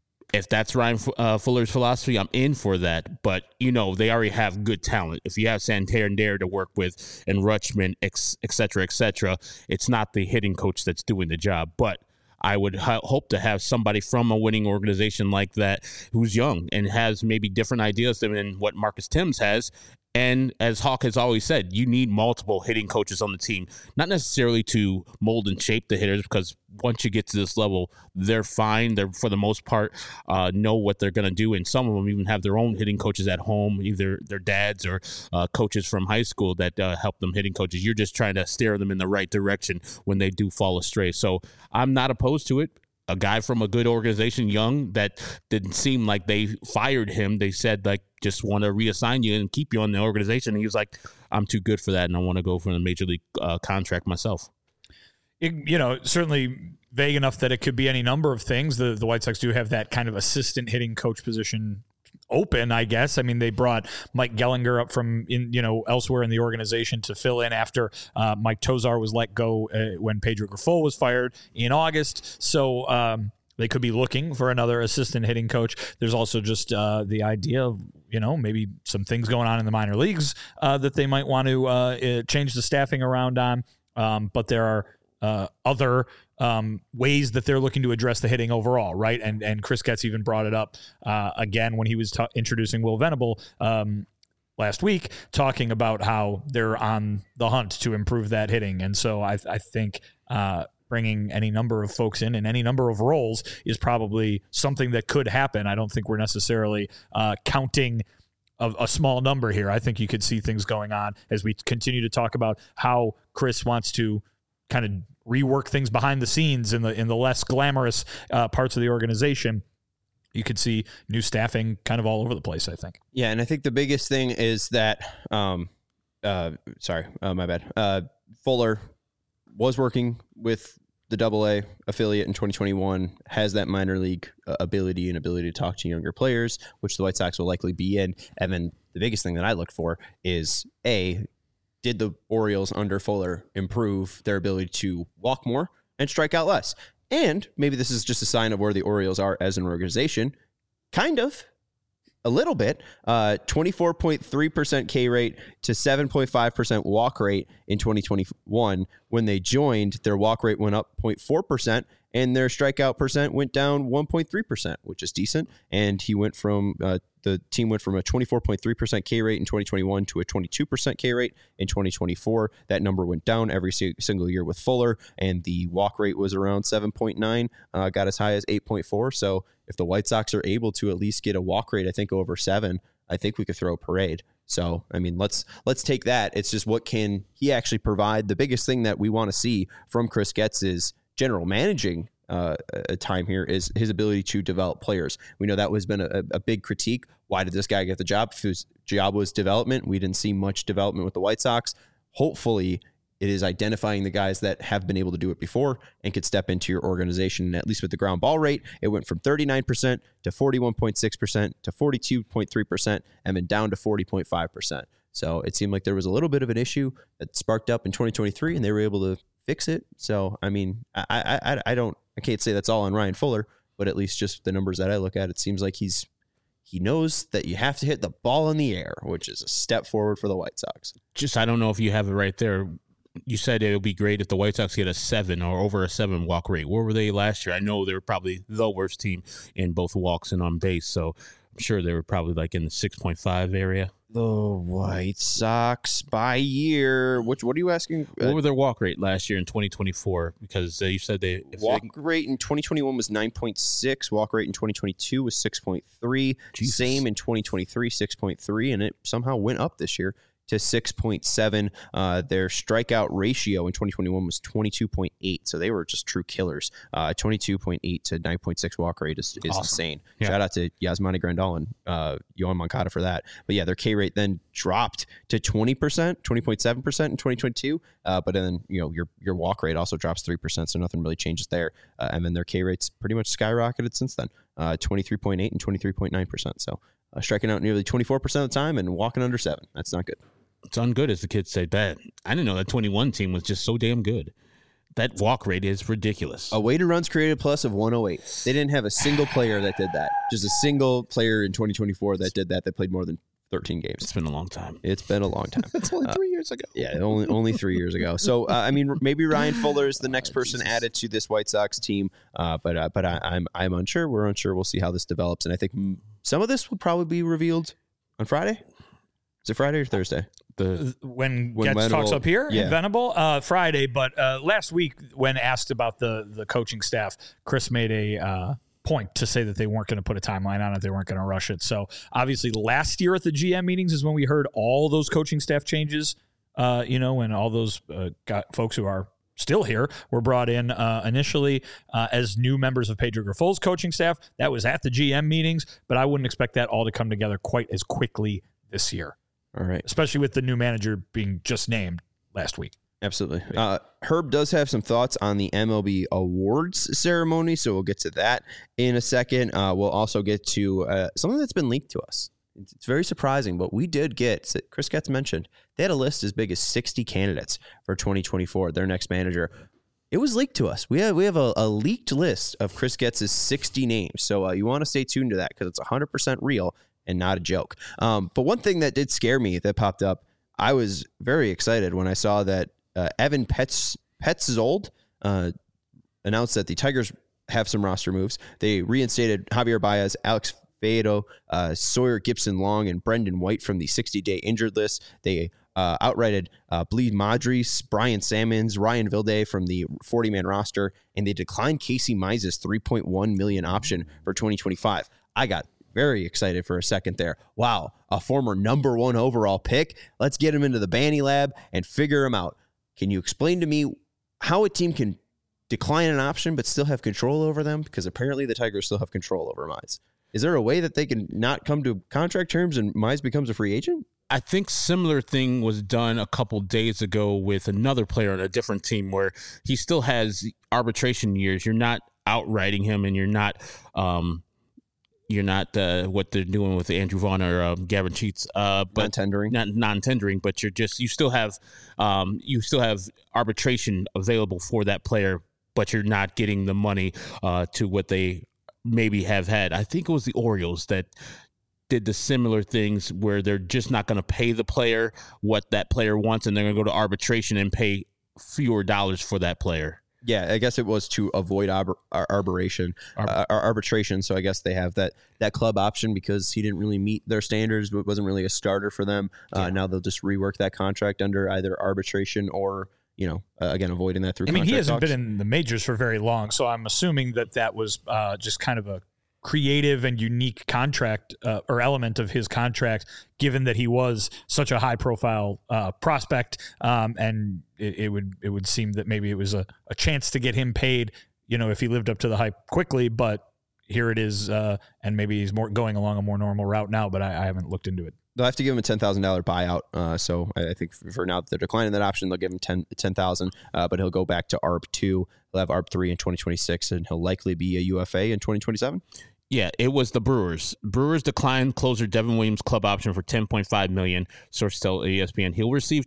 If that's Ryan Fuller's philosophy, I'm in for that. But, you know, they already have good talent. If you have Santander to work with and Rutschman, et cetera, it's not the hitting coach that's doing the job. But I would hope to have somebody from a winning organization like that who's young and has maybe different ideas than what Marcus Thames has. And as Hawk has always said, you need multiple hitting coaches on the team, not necessarily to mold and shape the hitters, because once you get to this level, they're fine. They're, for the most part, know what they're going to do. And some of them even have their own hitting coaches at home, either their dads or coaches from high school that help them hitting coaches. You're just trying to steer them in the right direction when they do fall astray. So I'm not opposed to it. A guy from a good organization, young, that didn't seem like they fired him. They said, like, just want to reassign you and keep you on the organization. And he was like, I'm too good for that, and I want to go for a major league contract myself. Certainly vague enough that it could be any number of things. The White Sox do have that kind of assistant hitting coach position open, I guess. I mean, they brought Mike Gellinger up from elsewhere in the organization to fill in after Mike Tosar was let go when Pedro Grifol was fired in August. So they could be looking for another assistant hitting coach. There's also just the idea of, maybe some things going on in the minor leagues that they might want to change the staffing around on. But there are other ways that they're looking to address the hitting overall, right? And Chris Getz even brought it up again when he was introducing Will Venable last week, talking about how they're on the hunt to improve that hitting. And so I think bringing any number of folks in any number of roles is probably something that could happen. I don't think we're necessarily counting a small number here. I think you could see things going on as we continue to talk about how Chris wants to kind of rework things behind the scenes in the less glamorous parts of the organization. You could see new staffing kind of all over the place, I think. Yeah, and I think the biggest thing is that, my bad. Fuller was working with the AA affiliate in 2021, has that minor league ability to talk to younger players, which the White Sox will likely be in. And then the biggest thing that I looked for is, did the Orioles under Fuller improve their ability to walk more and strike out less? And maybe this is just a sign of where the Orioles are as an organization. Kind of. A little bit. 24.3% K rate to 7.5% walk rate in 2021. When they joined, their walk rate went up 0.4%, and their strikeout percent went down 1.3%, which is decent. And the team went from a 24.3% K rate in 2021 to a 22% K rate in 2024. That number went down every single year with Fuller, and the walk rate was around 7.9, got as high as 8.4. So if the White Sox are able to at least get a walk rate, I think over 7, I think we could throw a parade. So, I mean, let's take that. It's just, what can he actually provide? The biggest thing that we want to see from Chris Getz's general managing time here is his ability to develop players. We know that has been a big critique. Why did this guy get the job? If his job was development, we didn't see much development with the White Sox. Hopefully, it is identifying the guys that have been able to do it before and could step into your organization. And at least with the ground ball rate, it went from 39% to 41.6% to 42.3% and then down to 40.5%. So it seemed like there was a little bit of an issue that sparked up in 2023, and they were able to fix it. So, I mean, I can't say that's all on Ryan Fuller, but at least just the numbers that I look at, it seems like he's he knows that you have to hit the ball in the air, which is a step forward for the White Sox. I don't know if you have it right there. You said it would be great if the White Sox get a 7 or over a 7 walk rate. Where were they last year? I know they were probably the worst team in both walks and on base, so I'm sure they were probably like in the 6.5 area. The White Sox by year. What are you asking? What were their walk rate last year in 2024? Because you said rate in 2021 was 9.6. Walk rate in 2022 was 6.3. Jesus. Same in 2023, 6.3, and it somehow went up this year to 6.7. Their strikeout ratio in 2021 was 22.8, so they were just true killers. 22.8 to 9.6 walk rate is awesome. Insane. Yeah. Shout out to Yasmani Grandal and Yohan Moncada for that. But yeah, their K rate then dropped to 20%, 20.7% in 2022. But then your walk rate also drops 3%, so nothing really changes there. And then their K rate's pretty much skyrocketed since then, 23.8 and 23.9%. So striking out nearly 24% of the time and walking under 7. That's not good. It's ungood, as the kids say. Bad. I didn't know that 21 team was just so damn good. That walk rate is ridiculous. A weighted runs created plus of 108. They didn't have a single player that did that. Just a single player in 2024 that did that played more than 13 games. It's been a long time. It's been a long time. It's only 3 years ago. Yeah, only 3 years ago. So, maybe Ryan Fuller is the next person added to this White Sox team. But I'm unsure. We're unsure. We'll see how this develops. And I think some of this will probably be revealed on Friday. Is it Friday or Thursday? When Getz talks up here in Venable, Friday. But last week, when asked about the coaching staff, Chris made a point to say that they weren't going to put a timeline on it. They weren't going to rush it. So obviously last year at the GM meetings is when we heard all those coaching staff changes, and all those folks who are still here were brought in initially as new members of Pedro Grifol's coaching staff. That was at the GM meetings, but I wouldn't expect that all to come together quite as quickly this year. All right. Especially with the new manager being just named last week. Absolutely. Herb does have some thoughts on the MLB awards ceremony, so we'll get to that in a second. We'll also get to something that's been leaked to us. It's very surprising, but we did get, Chris Getz mentioned, they had a list as big as 60 candidates for 2024, their next manager. It was leaked to us. We have a leaked list of Chris Getz's 60 names, so you want to stay tuned to that because it's 100% real and not a joke. But one thing that did scare me that popped up, I was very excited when I saw that Evan Petzold announced that the Tigers have some roster moves. They reinstated Javier Baez, Alex Faedo, Sawyer Gibson-Long, and Brendan White from the 60-day injured list. They outrighted Bleed Madris, Brian Sammons, Ryan Vilde from the 40-man roster, and they declined Casey Mize's $3.1 million option for 2025. I got very excited for a second there. Wow, a former number 1 overall pick. Let's get him into the Banny Lab and figure him out. Can you explain to me how a team can decline an option but still have control over them? Because apparently the Tigers still have control over Mize. Is there a way that they can not come to contract terms and Mize becomes a free agent? I think similar thing was done a couple days ago with another player on a different team where he still has arbitration years. You're not outrighting him, and you're not what they're doing with Andrew Vaughn or Gavin Sheets, but non-tendering. But you still have arbitration available for that player, but you're not getting the money to what they maybe have had. I think it was the Orioles that did the similar things where they're just not going to pay the player what that player wants, and they're going to go to arbitration and pay fewer dollars for that player. Yeah, I guess it was to avoid arbitration. So I guess they have that club option because he didn't really meet their standards, but wasn't really a starter for them. Now they'll just rework that contract under either arbitration or, again, avoiding that through contract he hasn't talks. been in the majors for very long, so I'm assuming that was just kind of a creative and unique contract or element of his contract, given that he was such a high profile prospect. And it would seem that maybe it was a chance to get him paid, if he lived up to the hype quickly, but here it is. And maybe he's going along a more normal route now, but I haven't looked into it. They'll have to give him a $10,000 buyout. So I think for now that they're declining that option, they'll give him $10,000, but he'll go back to ARB 2. He'll have ARB 3 in 2026, and he'll likely be a UFA in 2027. Yeah, it was the Brewers. Brewers declined closer Devin Williams' club option for $10.5 million. Sources tell ESPN he'll receive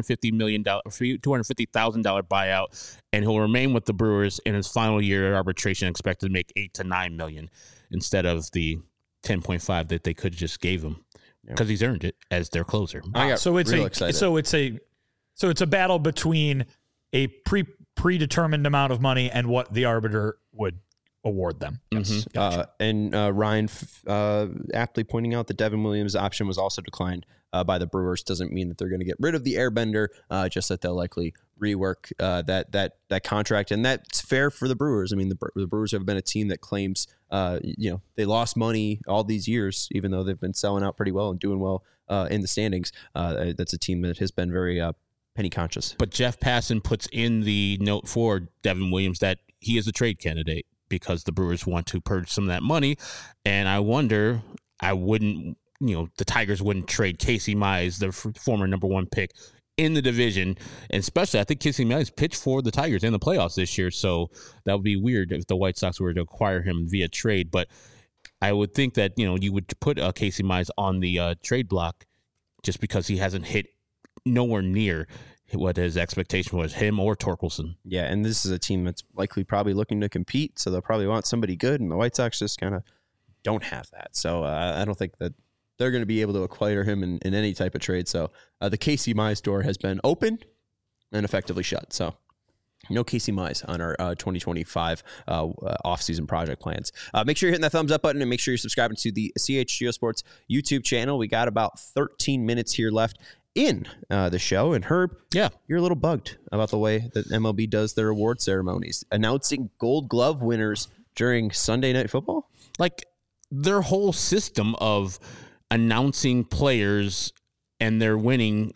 $250,000 buyout, and he'll remain with the Brewers in his final year of arbitration, expected to make $8 to $9 million instead of the 10.5 that they could have just gave him because he's earned it as their closer. I got real excited. So it's a battle between a predetermined amount of money and what the arbiter would award them. Yes. Gotcha. And Ryan aptly pointing out that Devin Williams' option was also declined by the Brewers. Doesn't mean that they're going to get rid of the Airbender, just that they'll likely rework that contract, and that's fair for the Brewers. I mean, the Brewers have been a team that claims they lost money all these years, even though they've been selling out pretty well and doing well in the standings. That's a team that has been very penny conscious. But Jeff Passan puts in the note for Devin Williams that he is a trade candidate because the Brewers want to purge some of that money. And I wonder, the Tigers wouldn't trade Casey Mize, the former number 1 pick in the division. And especially, I think Casey Mize pitched for the Tigers in the playoffs this year. So that would be weird if the White Sox were to acquire him via trade. But I would think that, you would put Casey Mize on the trade block just because he hasn't hit nowhere near what his expectation was, him or Torkelson. Yeah, and this is a team that's likely probably looking to compete, so they'll probably want somebody good, and the White Sox just kind of don't have that. So I don't think that they're going to be able to acquire him in any type of trade. So the Casey Mize door has been opened and effectively shut. So no Casey Mize on our 2025 off-season project plans. Make sure you're hitting that thumbs up button and make sure you're subscribing to the CHGO Sports YouTube channel. We got about 13 minutes here left in the show. And Herb, you're a little bugged about the way that MLB does their award ceremonies, announcing Gold Glove winners during Sunday Night Football. Like their whole system of announcing players and their winning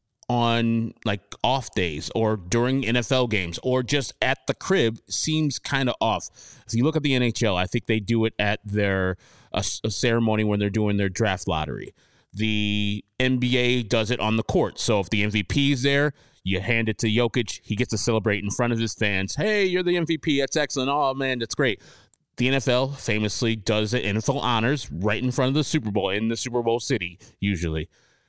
on like off days or during NFL games or just at the crib seems kind of off. If you look at the NHL, I think they do it at their a ceremony when they're doing their draft lottery. The NBA does it on the court. So if the MVP is there, you hand it to Jokic. He gets to celebrate in front of his fans. Hey, you're the MVP. That's excellent. Oh, man, that's great. The NFL famously does it, NFL honors, right in front of the Super Bowl, in the Super Bowl city, usually.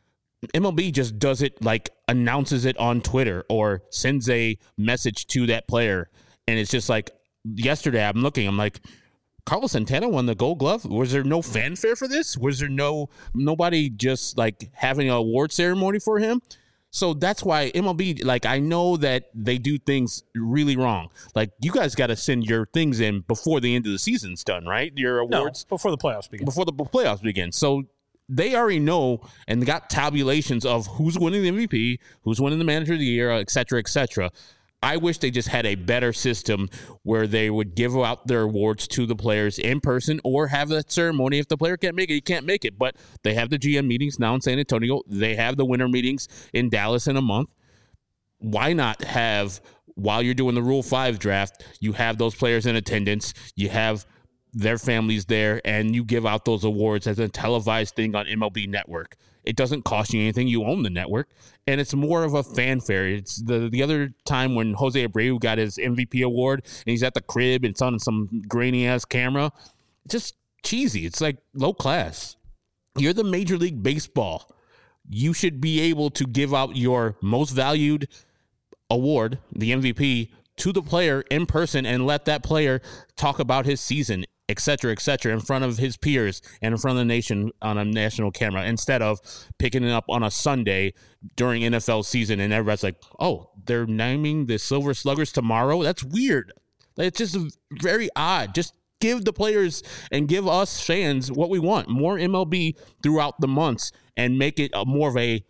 MLB just does it, like announces it on Twitter or sends a message to that player. And it's just like, yesterday I'm like, Carlos Santana won the Gold Glove. Was there no fanfare for this? Was there nobody just like having an award ceremony for him? So that's why MLB, like, I know that they do things really wrong. Like, you guys got to send your things in before the end of the season's done, right? Your awards? No, before the playoffs begin. Before the playoffs begin. So they already know and got tabulations of who's winning the MVP, who's winning the Manager of the Year, et cetera, et cetera. I wish they just had a better system where they would give out their awards to the players in person or have that ceremony. If the player can't make it, he can't make it. But they have the GM meetings now in San Antonio. They have the winter meetings in Dallas in a month. Why not have, while you're doing the Rule 5 draft, you have those players in attendance, you have their families there, and you give out those awards as a televised thing on MLB Network. It doesn't cost you anything. You own the network, and it's more of a fanfare. It's the other time when Jose Abreu got his MVP award, and he's at the crib, and it's on some grainy-ass camera. It's just cheesy. It's like low class. You're the Major League Baseball. You should be able to give out your most valued award, the MVP, to the player in person and let that player talk about his season, et cetera, in front of his peers and in front of the nation on a national camera, instead of picking it up on a Sunday during NFL season and everybody's like, oh, they're naming the Silver Sluggers tomorrow? That's weird. It's just very odd. Just give the players and give us fans what we want. More MLB throughout the months and make it more of a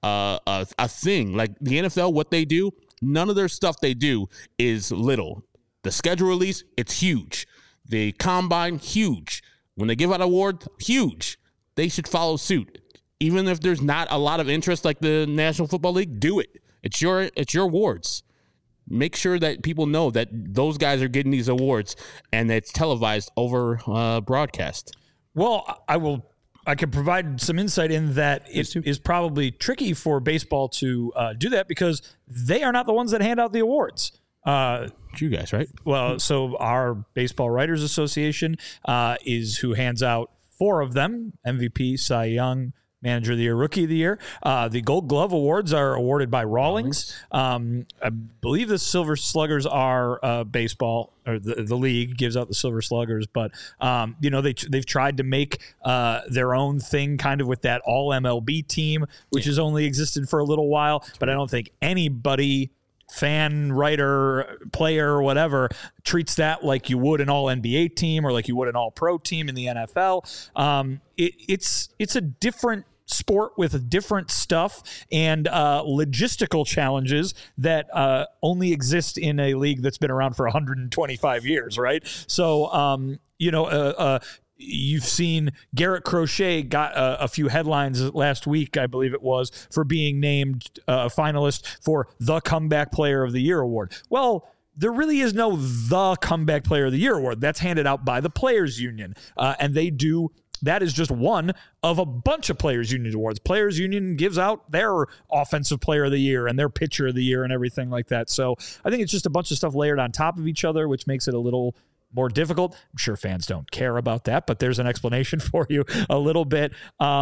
thing. Like the NFL, what they do, none of their stuff they do is little. The schedule release, it's huge. The combine, huge. When they give out awards, huge. They should follow suit. Even if there's not a lot of interest like the National Football League, do it. It's your awards. Make sure that people know that those guys are getting these awards and it's televised over broadcast. Well, I can provide some insight in that it is probably tricky for baseball to do that because they are not the ones that hand out the awards. You guys, right? Well, so our Baseball Writers Association is who hands out 4 of them: MVP, Cy Young, Manager of the Year, Rookie of the Year. The Gold Glove Awards are awarded by Rawlings. I believe the Silver Sluggers are baseball, or the league gives out the Silver Sluggers. But, they've tried to make their own thing kind of with that all MLB team, which has only existed for a little while. But I don't think anybody, fan, writer, player, or whatever, treats that like you would an all NBA team or like you would an all pro team in the NFL. It's a different sport with different stuff and logistical challenges that only exist in a league that's been around for 125 years, right? So, you've seen Garrett Crochet got a few headlines last week, I believe it was, for being named a finalist for the Comeback Player of the Year award. Well, there really is no the Comeback Player of the Year award. That's handed out by the Players Union, and they do. That is just one of a bunch of Players Union awards. Players Union gives out their Offensive Player of the Year and their Pitcher of the Year and everything like that. So I think it's just a bunch of stuff layered on top of each other, which makes it a little more difficult. I'm sure fans don't care about that, but there's an explanation for you a little bit.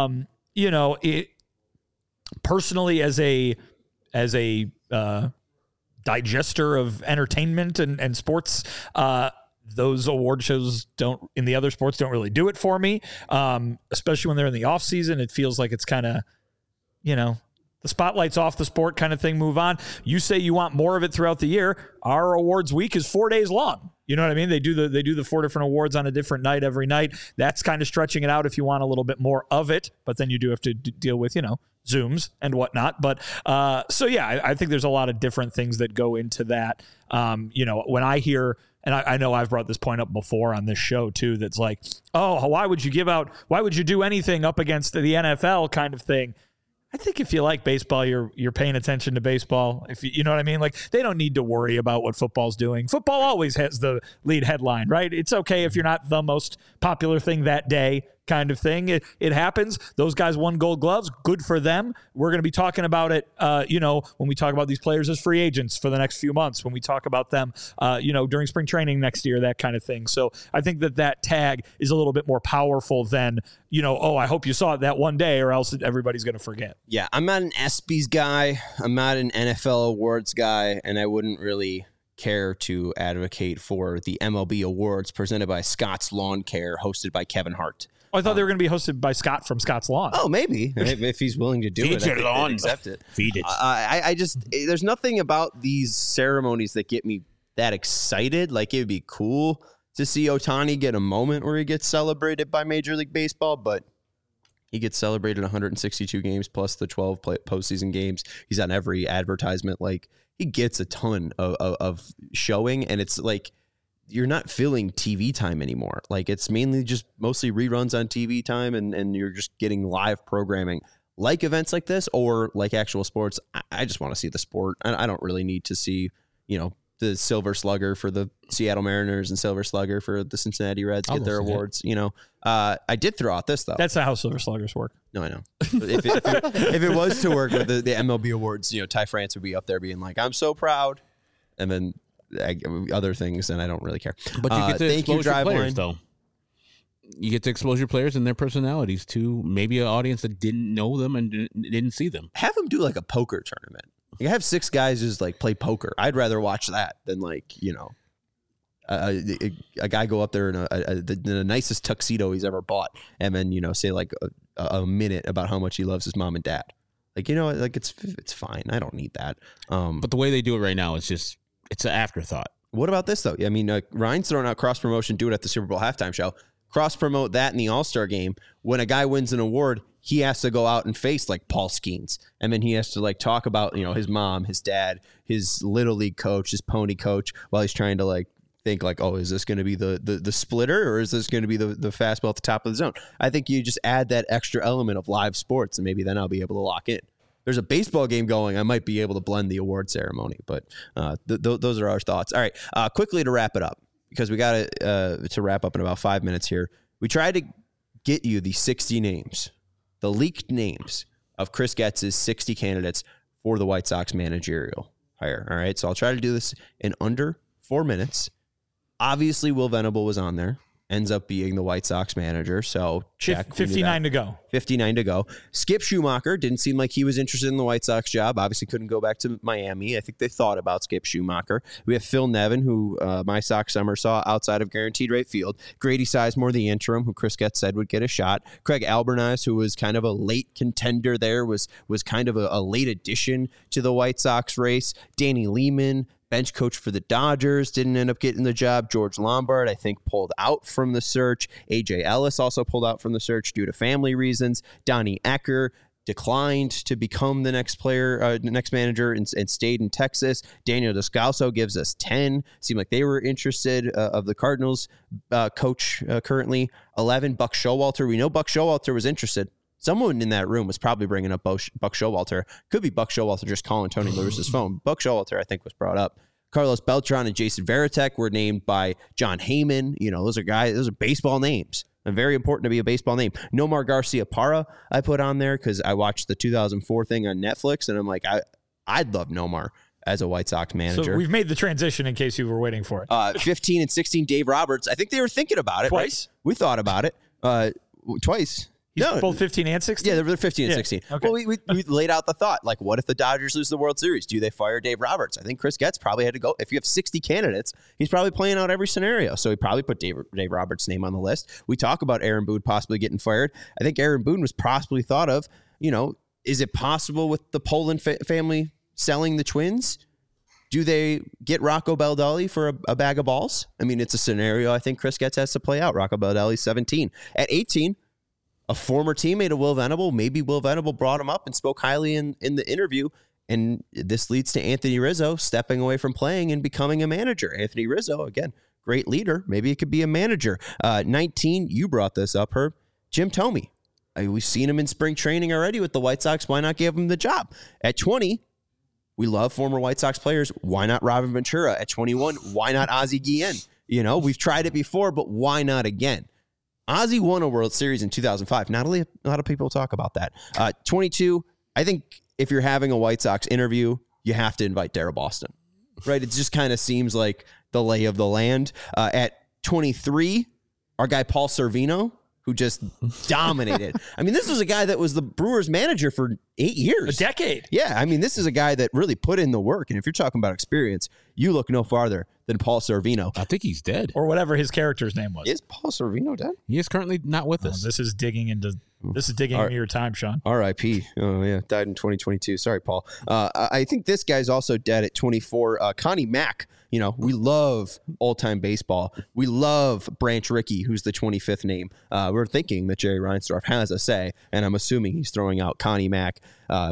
Personally, as a digester of entertainment and sports, those award shows in the other sports don't really do it for me. Especially when they're in the off season, it feels like it's kind of, the spotlight's off the sport kind of thing, move on. You say you want more of it throughout the year. Our awards week is 4 days long. You know what I mean? They do the 4 different awards on a different night every night. That's kind of stretching it out if you want a little bit more of it, but then you do have to deal with, Zooms and whatnot. But I think there's a lot of different things that go into that. When I hear, and I know I've brought this point up before on this show too, that's like, oh, why would you do anything up against the NFL kind of thing? I think if you like baseball, you're paying attention to baseball. If you know what I mean? Like, they don't need to worry about what football's doing. Football always has the lead headline, right? It's okay if you're not the most popular thing that day, kind of thing. It happens. Those guys won Gold Gloves. Good for them. We're going to be talking about it, when we talk about these players as free agents for the next few months, when we talk about them, during spring training next year, that kind of thing. So I think that tag is a little bit more powerful than, I hope you saw it that one day or else everybody's going to forget. Yeah, I'm not an ESPYs guy. I'm not an NFL awards guy, and I wouldn't really care to advocate for the MLB awards presented by Scott's Lawn Care, hosted by Kevin Hart. Oh, I thought they were going to be hosted by Scott from Scott's Lawn. Oh, maybe. If he's willing to do Feed it, your lawn. Accept it. Feed it. I just, there's nothing about these ceremonies that get me that excited. Like, it would be cool to see Ohtani get a moment where he gets celebrated by Major League Baseball, but he gets celebrated 162 games plus the 12 postseason games. He's on every advertisement. Like, he gets a ton of showing, and it's like, you're not filling TV time anymore. Like, it's mainly just mostly reruns on TV time, and you're just getting live programming like events like this or like actual sports. I just want to see the sport. I don't really need to see, the Silver Slugger for the Seattle Mariners and Silver Slugger for the Cincinnati Reds get their awards. I did throw out this though. That's not how Silver Sluggers work. No, I know. If it was to work with the MLB awards, Ty France would be up there being like, I'm so proud. And then other things, and I don't really care. But you get to expose your players, though. You get to expose your players and their personalities to maybe an audience that didn't know them and didn't see them. Have them do like a poker tournament. You have 6 guys just like play poker. I'd rather watch that than a guy go up there in the nicest tuxedo he's ever bought, and then say like a minute about how much he loves his mom and dad. Like, it's fine. I don't need that. But the way they do it right now is just. It's an afterthought. What about this, though? I mean, Ryan's throwing out cross-promotion, do it at the Super Bowl halftime show. Cross-promote that in the All-Star game. When a guy wins an award, he has to go out and face, like, Paul Skeens. And then he has to, like, talk about, his mom, his dad, his Little League coach, his pony coach, while he's trying to, like, think, like, oh, is this going to be the splitter, or is this going to be the fastball at the top of the zone? I think you just add that extra element of live sports, and maybe then I'll be able to lock in. There's a baseball game going, I might be able to blend the award ceremony, but those are our thoughts. All right, quickly to wrap it up, because we got to wrap up in about 5 minutes here. We tried to get you the 60 names, the leaked names of Chris Getz's 60 candidates for the White Sox managerial hire. All right, so I'll try to do this in under 4 minutes. Obviously, Will Venable was on there, ends up being the White Sox manager. So check. 59 to go. 59 to go. Skip Schumacher didn't seem like he was interested in the White Sox job. Obviously couldn't go back to Miami. I think they thought about Skip Schumacher. We have Phil Nevin, who my Sox summer saw outside of guaranteed rate field. Grady Sizemore, the interim, who Chris Getz said would get a shot. Craig Alberniz, who was kind of a late contender there, was kind of a late addition to the White Sox race. Danny Lehman, bench coach for the Dodgers, didn't end up getting the job. George Lombard, I think, pulled out from the search. A.J. Ellis also pulled out from the search due to family reasons. Donnie Ecker declined to become the next player, next manager, and stayed in Texas. Daniel Descalso gives us 10. Seemed like they were interested of the Cardinals coach currently. 11, Buck Showalter. We know Buck Showalter was interested. Someone in that room was probably bringing up Buck Showalter. Could be Buck Showalter just calling Tony Lewis's phone. Buck Showalter, I think, was brought up. Carlos Beltran and Jason Varitek were named by John Heyman. You know, those are baseball names. And very important to be a baseball name. Nomar Garcia-Parra I put on there because I watched the 2004 thing on Netflix, and I'm like, I'd love Nomar as a White Sox manager. So we've made the transition in case you were waiting for it. 15 and 16, Dave Roberts. I think they were thinking about it. Twice? Right? We thought about it. Twice. He's both 15 and 16? Yeah, they're 15 and 16. Okay. Well, we laid out the thought. Like, what if the Dodgers lose the World Series? Do they fire Dave Roberts? I think Chris Getz probably had to go. If you have 60 candidates, he's probably playing out every scenario. So he probably put Dave Roberts' name on the list. We talk about Aaron Boone possibly getting fired. I think Aaron Boone was possibly thought of. You know, is it possible with the Poland family selling the Twins? Do they get Rocco Baldelli for a bag of balls? I mean, it's a scenario I think Chris Getz has to play out. Rocco Baldelli's 17. At 18, a former teammate of Will Venable, maybe Will Venable brought him up and spoke highly in the interview, and this leads to Anthony Rizzo stepping away from playing and becoming a manager. Anthony Rizzo, again, great leader. Maybe it could be a manager. 19, you brought this up, Herb. Jim Thome. We've seen him in spring training already with the White Sox. Why not give him the job? At 20, we love former White Sox players. Why not Robin Ventura? At 21, why not Ozzie Guillen? You know, we've tried it before, but why not again? Ozzie won a World Series in 2005. Not a lot of people talk about that. 22, I think if you're having a White Sox interview, you have to invite Darryl Boston, right? It just kind of seems like the lay of the land. At 23, our guy Paul Sorvino, who just dominated. I mean, this was a guy that was the Brewers manager for 8 years. A decade. Yeah, I mean, this is a guy that really put in the work. And if you're talking about experience, you look no farther than Paul Sorvino. I think he's dead. Or whatever his character's name was. Is Paul Sorvino dead? He is currently not with us. This is digging into your time, Sean. R.I.P. Oh, yeah. Died in 2022. Sorry, Paul. I think this guy's also dead at 24. Connie Mack. You know, we love old-time baseball. We love Branch Rickey, who's the 25th name. We're thinking that Jerry Reinsdorf has a say, and I'm assuming he's throwing out Connie Mack,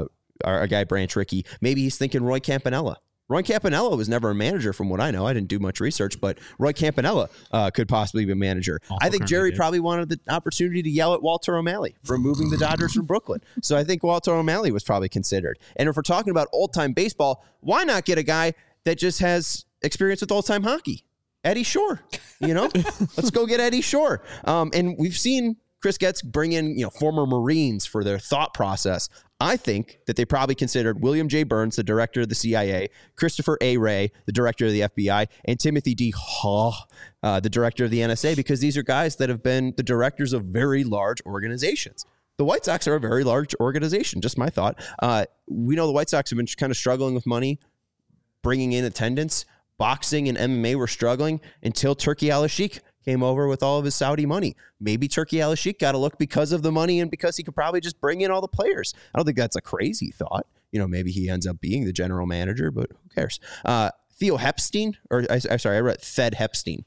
our guy Branch Rickey. Maybe he's thinking Roy Campanella. Roy Campanella was never a manager from what I know. I didn't do much research, but Roy Campanella could possibly be a manager. Also I think Jerry probably wanted the opportunity to yell at Walter O'Malley for moving the Dodgers from Brooklyn. So I think Walter O'Malley was probably considered. And if we're talking about old-time baseball, why not get a guy that just has experience with old-time hockey? Eddie Shore, you know? Let's go get Eddie Shore. And we've seen Chris Getz bring in, you know, former Marines for their thought process. I think that they probably considered William J. Burns, the director of the CIA, Christopher A. Wray, the director of the FBI, and Timothy D. Haw, the director of the NSA, because these are guys that have been the directors of very large organizations. The White Sox are a very large organization, just my thought. We know the White Sox have been kind of struggling with money, bringing in attendance. Boxing and MMA were struggling until Turki Al-Sheikh came over with all of his Saudi money. Maybe Turki Al-Sheikh got a look because of the money and because he could probably just bring in all the players. I don't think that's a crazy thought. You know, maybe he ends up being the general manager, but who cares? Theo Hepstein, or I read Thed Hepstein.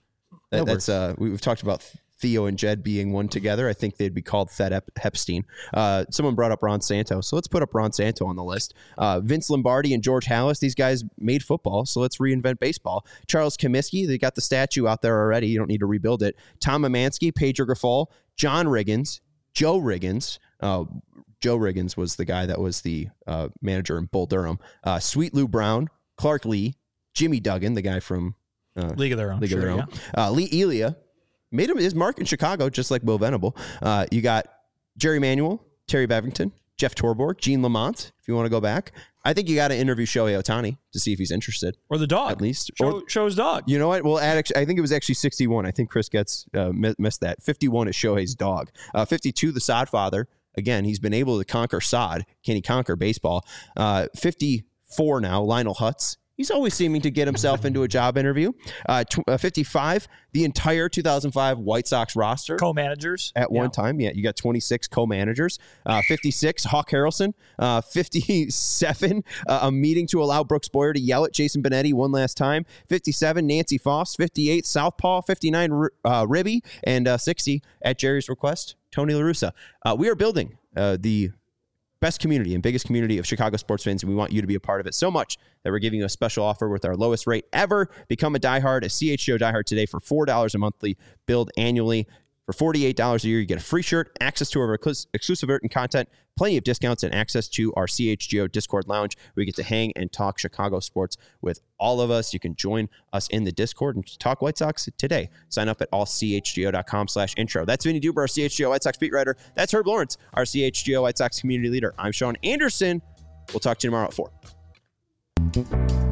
We've talked about Theo and Jed being one together. I think they'd be called Thed Hepstein. Someone brought up Ron Santo, so let's put up Ron Santo on the list. Vince Lombardi and George Halas, these guys made football, so let's reinvent baseball. Charles Comiskey, they got the statue out there already. You don't need to rebuild it. Tom Emanski, Pedro Grifol, John Riggins, Joe Riggins. Joe Riggins was the guy that was the manager in Bull Durham. Sweet Lou Brown, Clark Lee, Jimmy Duggan, the guy from League of Their Own. Yeah. Lee Elia. Made his mark in Chicago, just like Will Venable. You got Jerry Manuel, Terry Bevington, Jeff Torborg, Gene Lamont, if you want to go back. I think you got to interview Shohei Ohtani to see if he's interested. Or the dog. At least. Show his dog. You know what? Well, I think it was actually 61. I think Chris Getz missed that. 51 is Shohei's dog. 52, the Sod father. Again, he's been able to conquer Sod. Can he conquer baseball? 54 now, Lionel Hutz. He's always seeming to get himself into a job interview. 55, the entire 2005 White Sox roster. Co-managers. At one time. Yeah, you got 26 co-managers. 56, Hawk Harrelson. 57, a meeting to allow Brooks Boyer to yell at Jason Benetti one last time. 57, Nancy Foss. 58, Southpaw. 59, Ribby. And 60, at Jerry's request, Tony La Russa. We are building the best community and biggest community of Chicago sports fans, and we want you to be a part of it so much that we're giving you a special offer with our lowest rate ever. Become a diehard, a CHGO diehard today for $4 a monthly, billed annually. For $48 a year, you get a free shirt, access to our exclusive written content, plenty of discounts, and access to our CHGO Discord lounge where you get to hang and talk Chicago sports with all of us. You can join us in the Discord and talk White Sox today. Sign up at allchgo.com/intro. That's Vinny Duber, our CHGO White Sox beat writer. That's Herb Lawrence, our CHGO White Sox community leader. I'm Sean Anderson. We'll talk to you tomorrow at 4.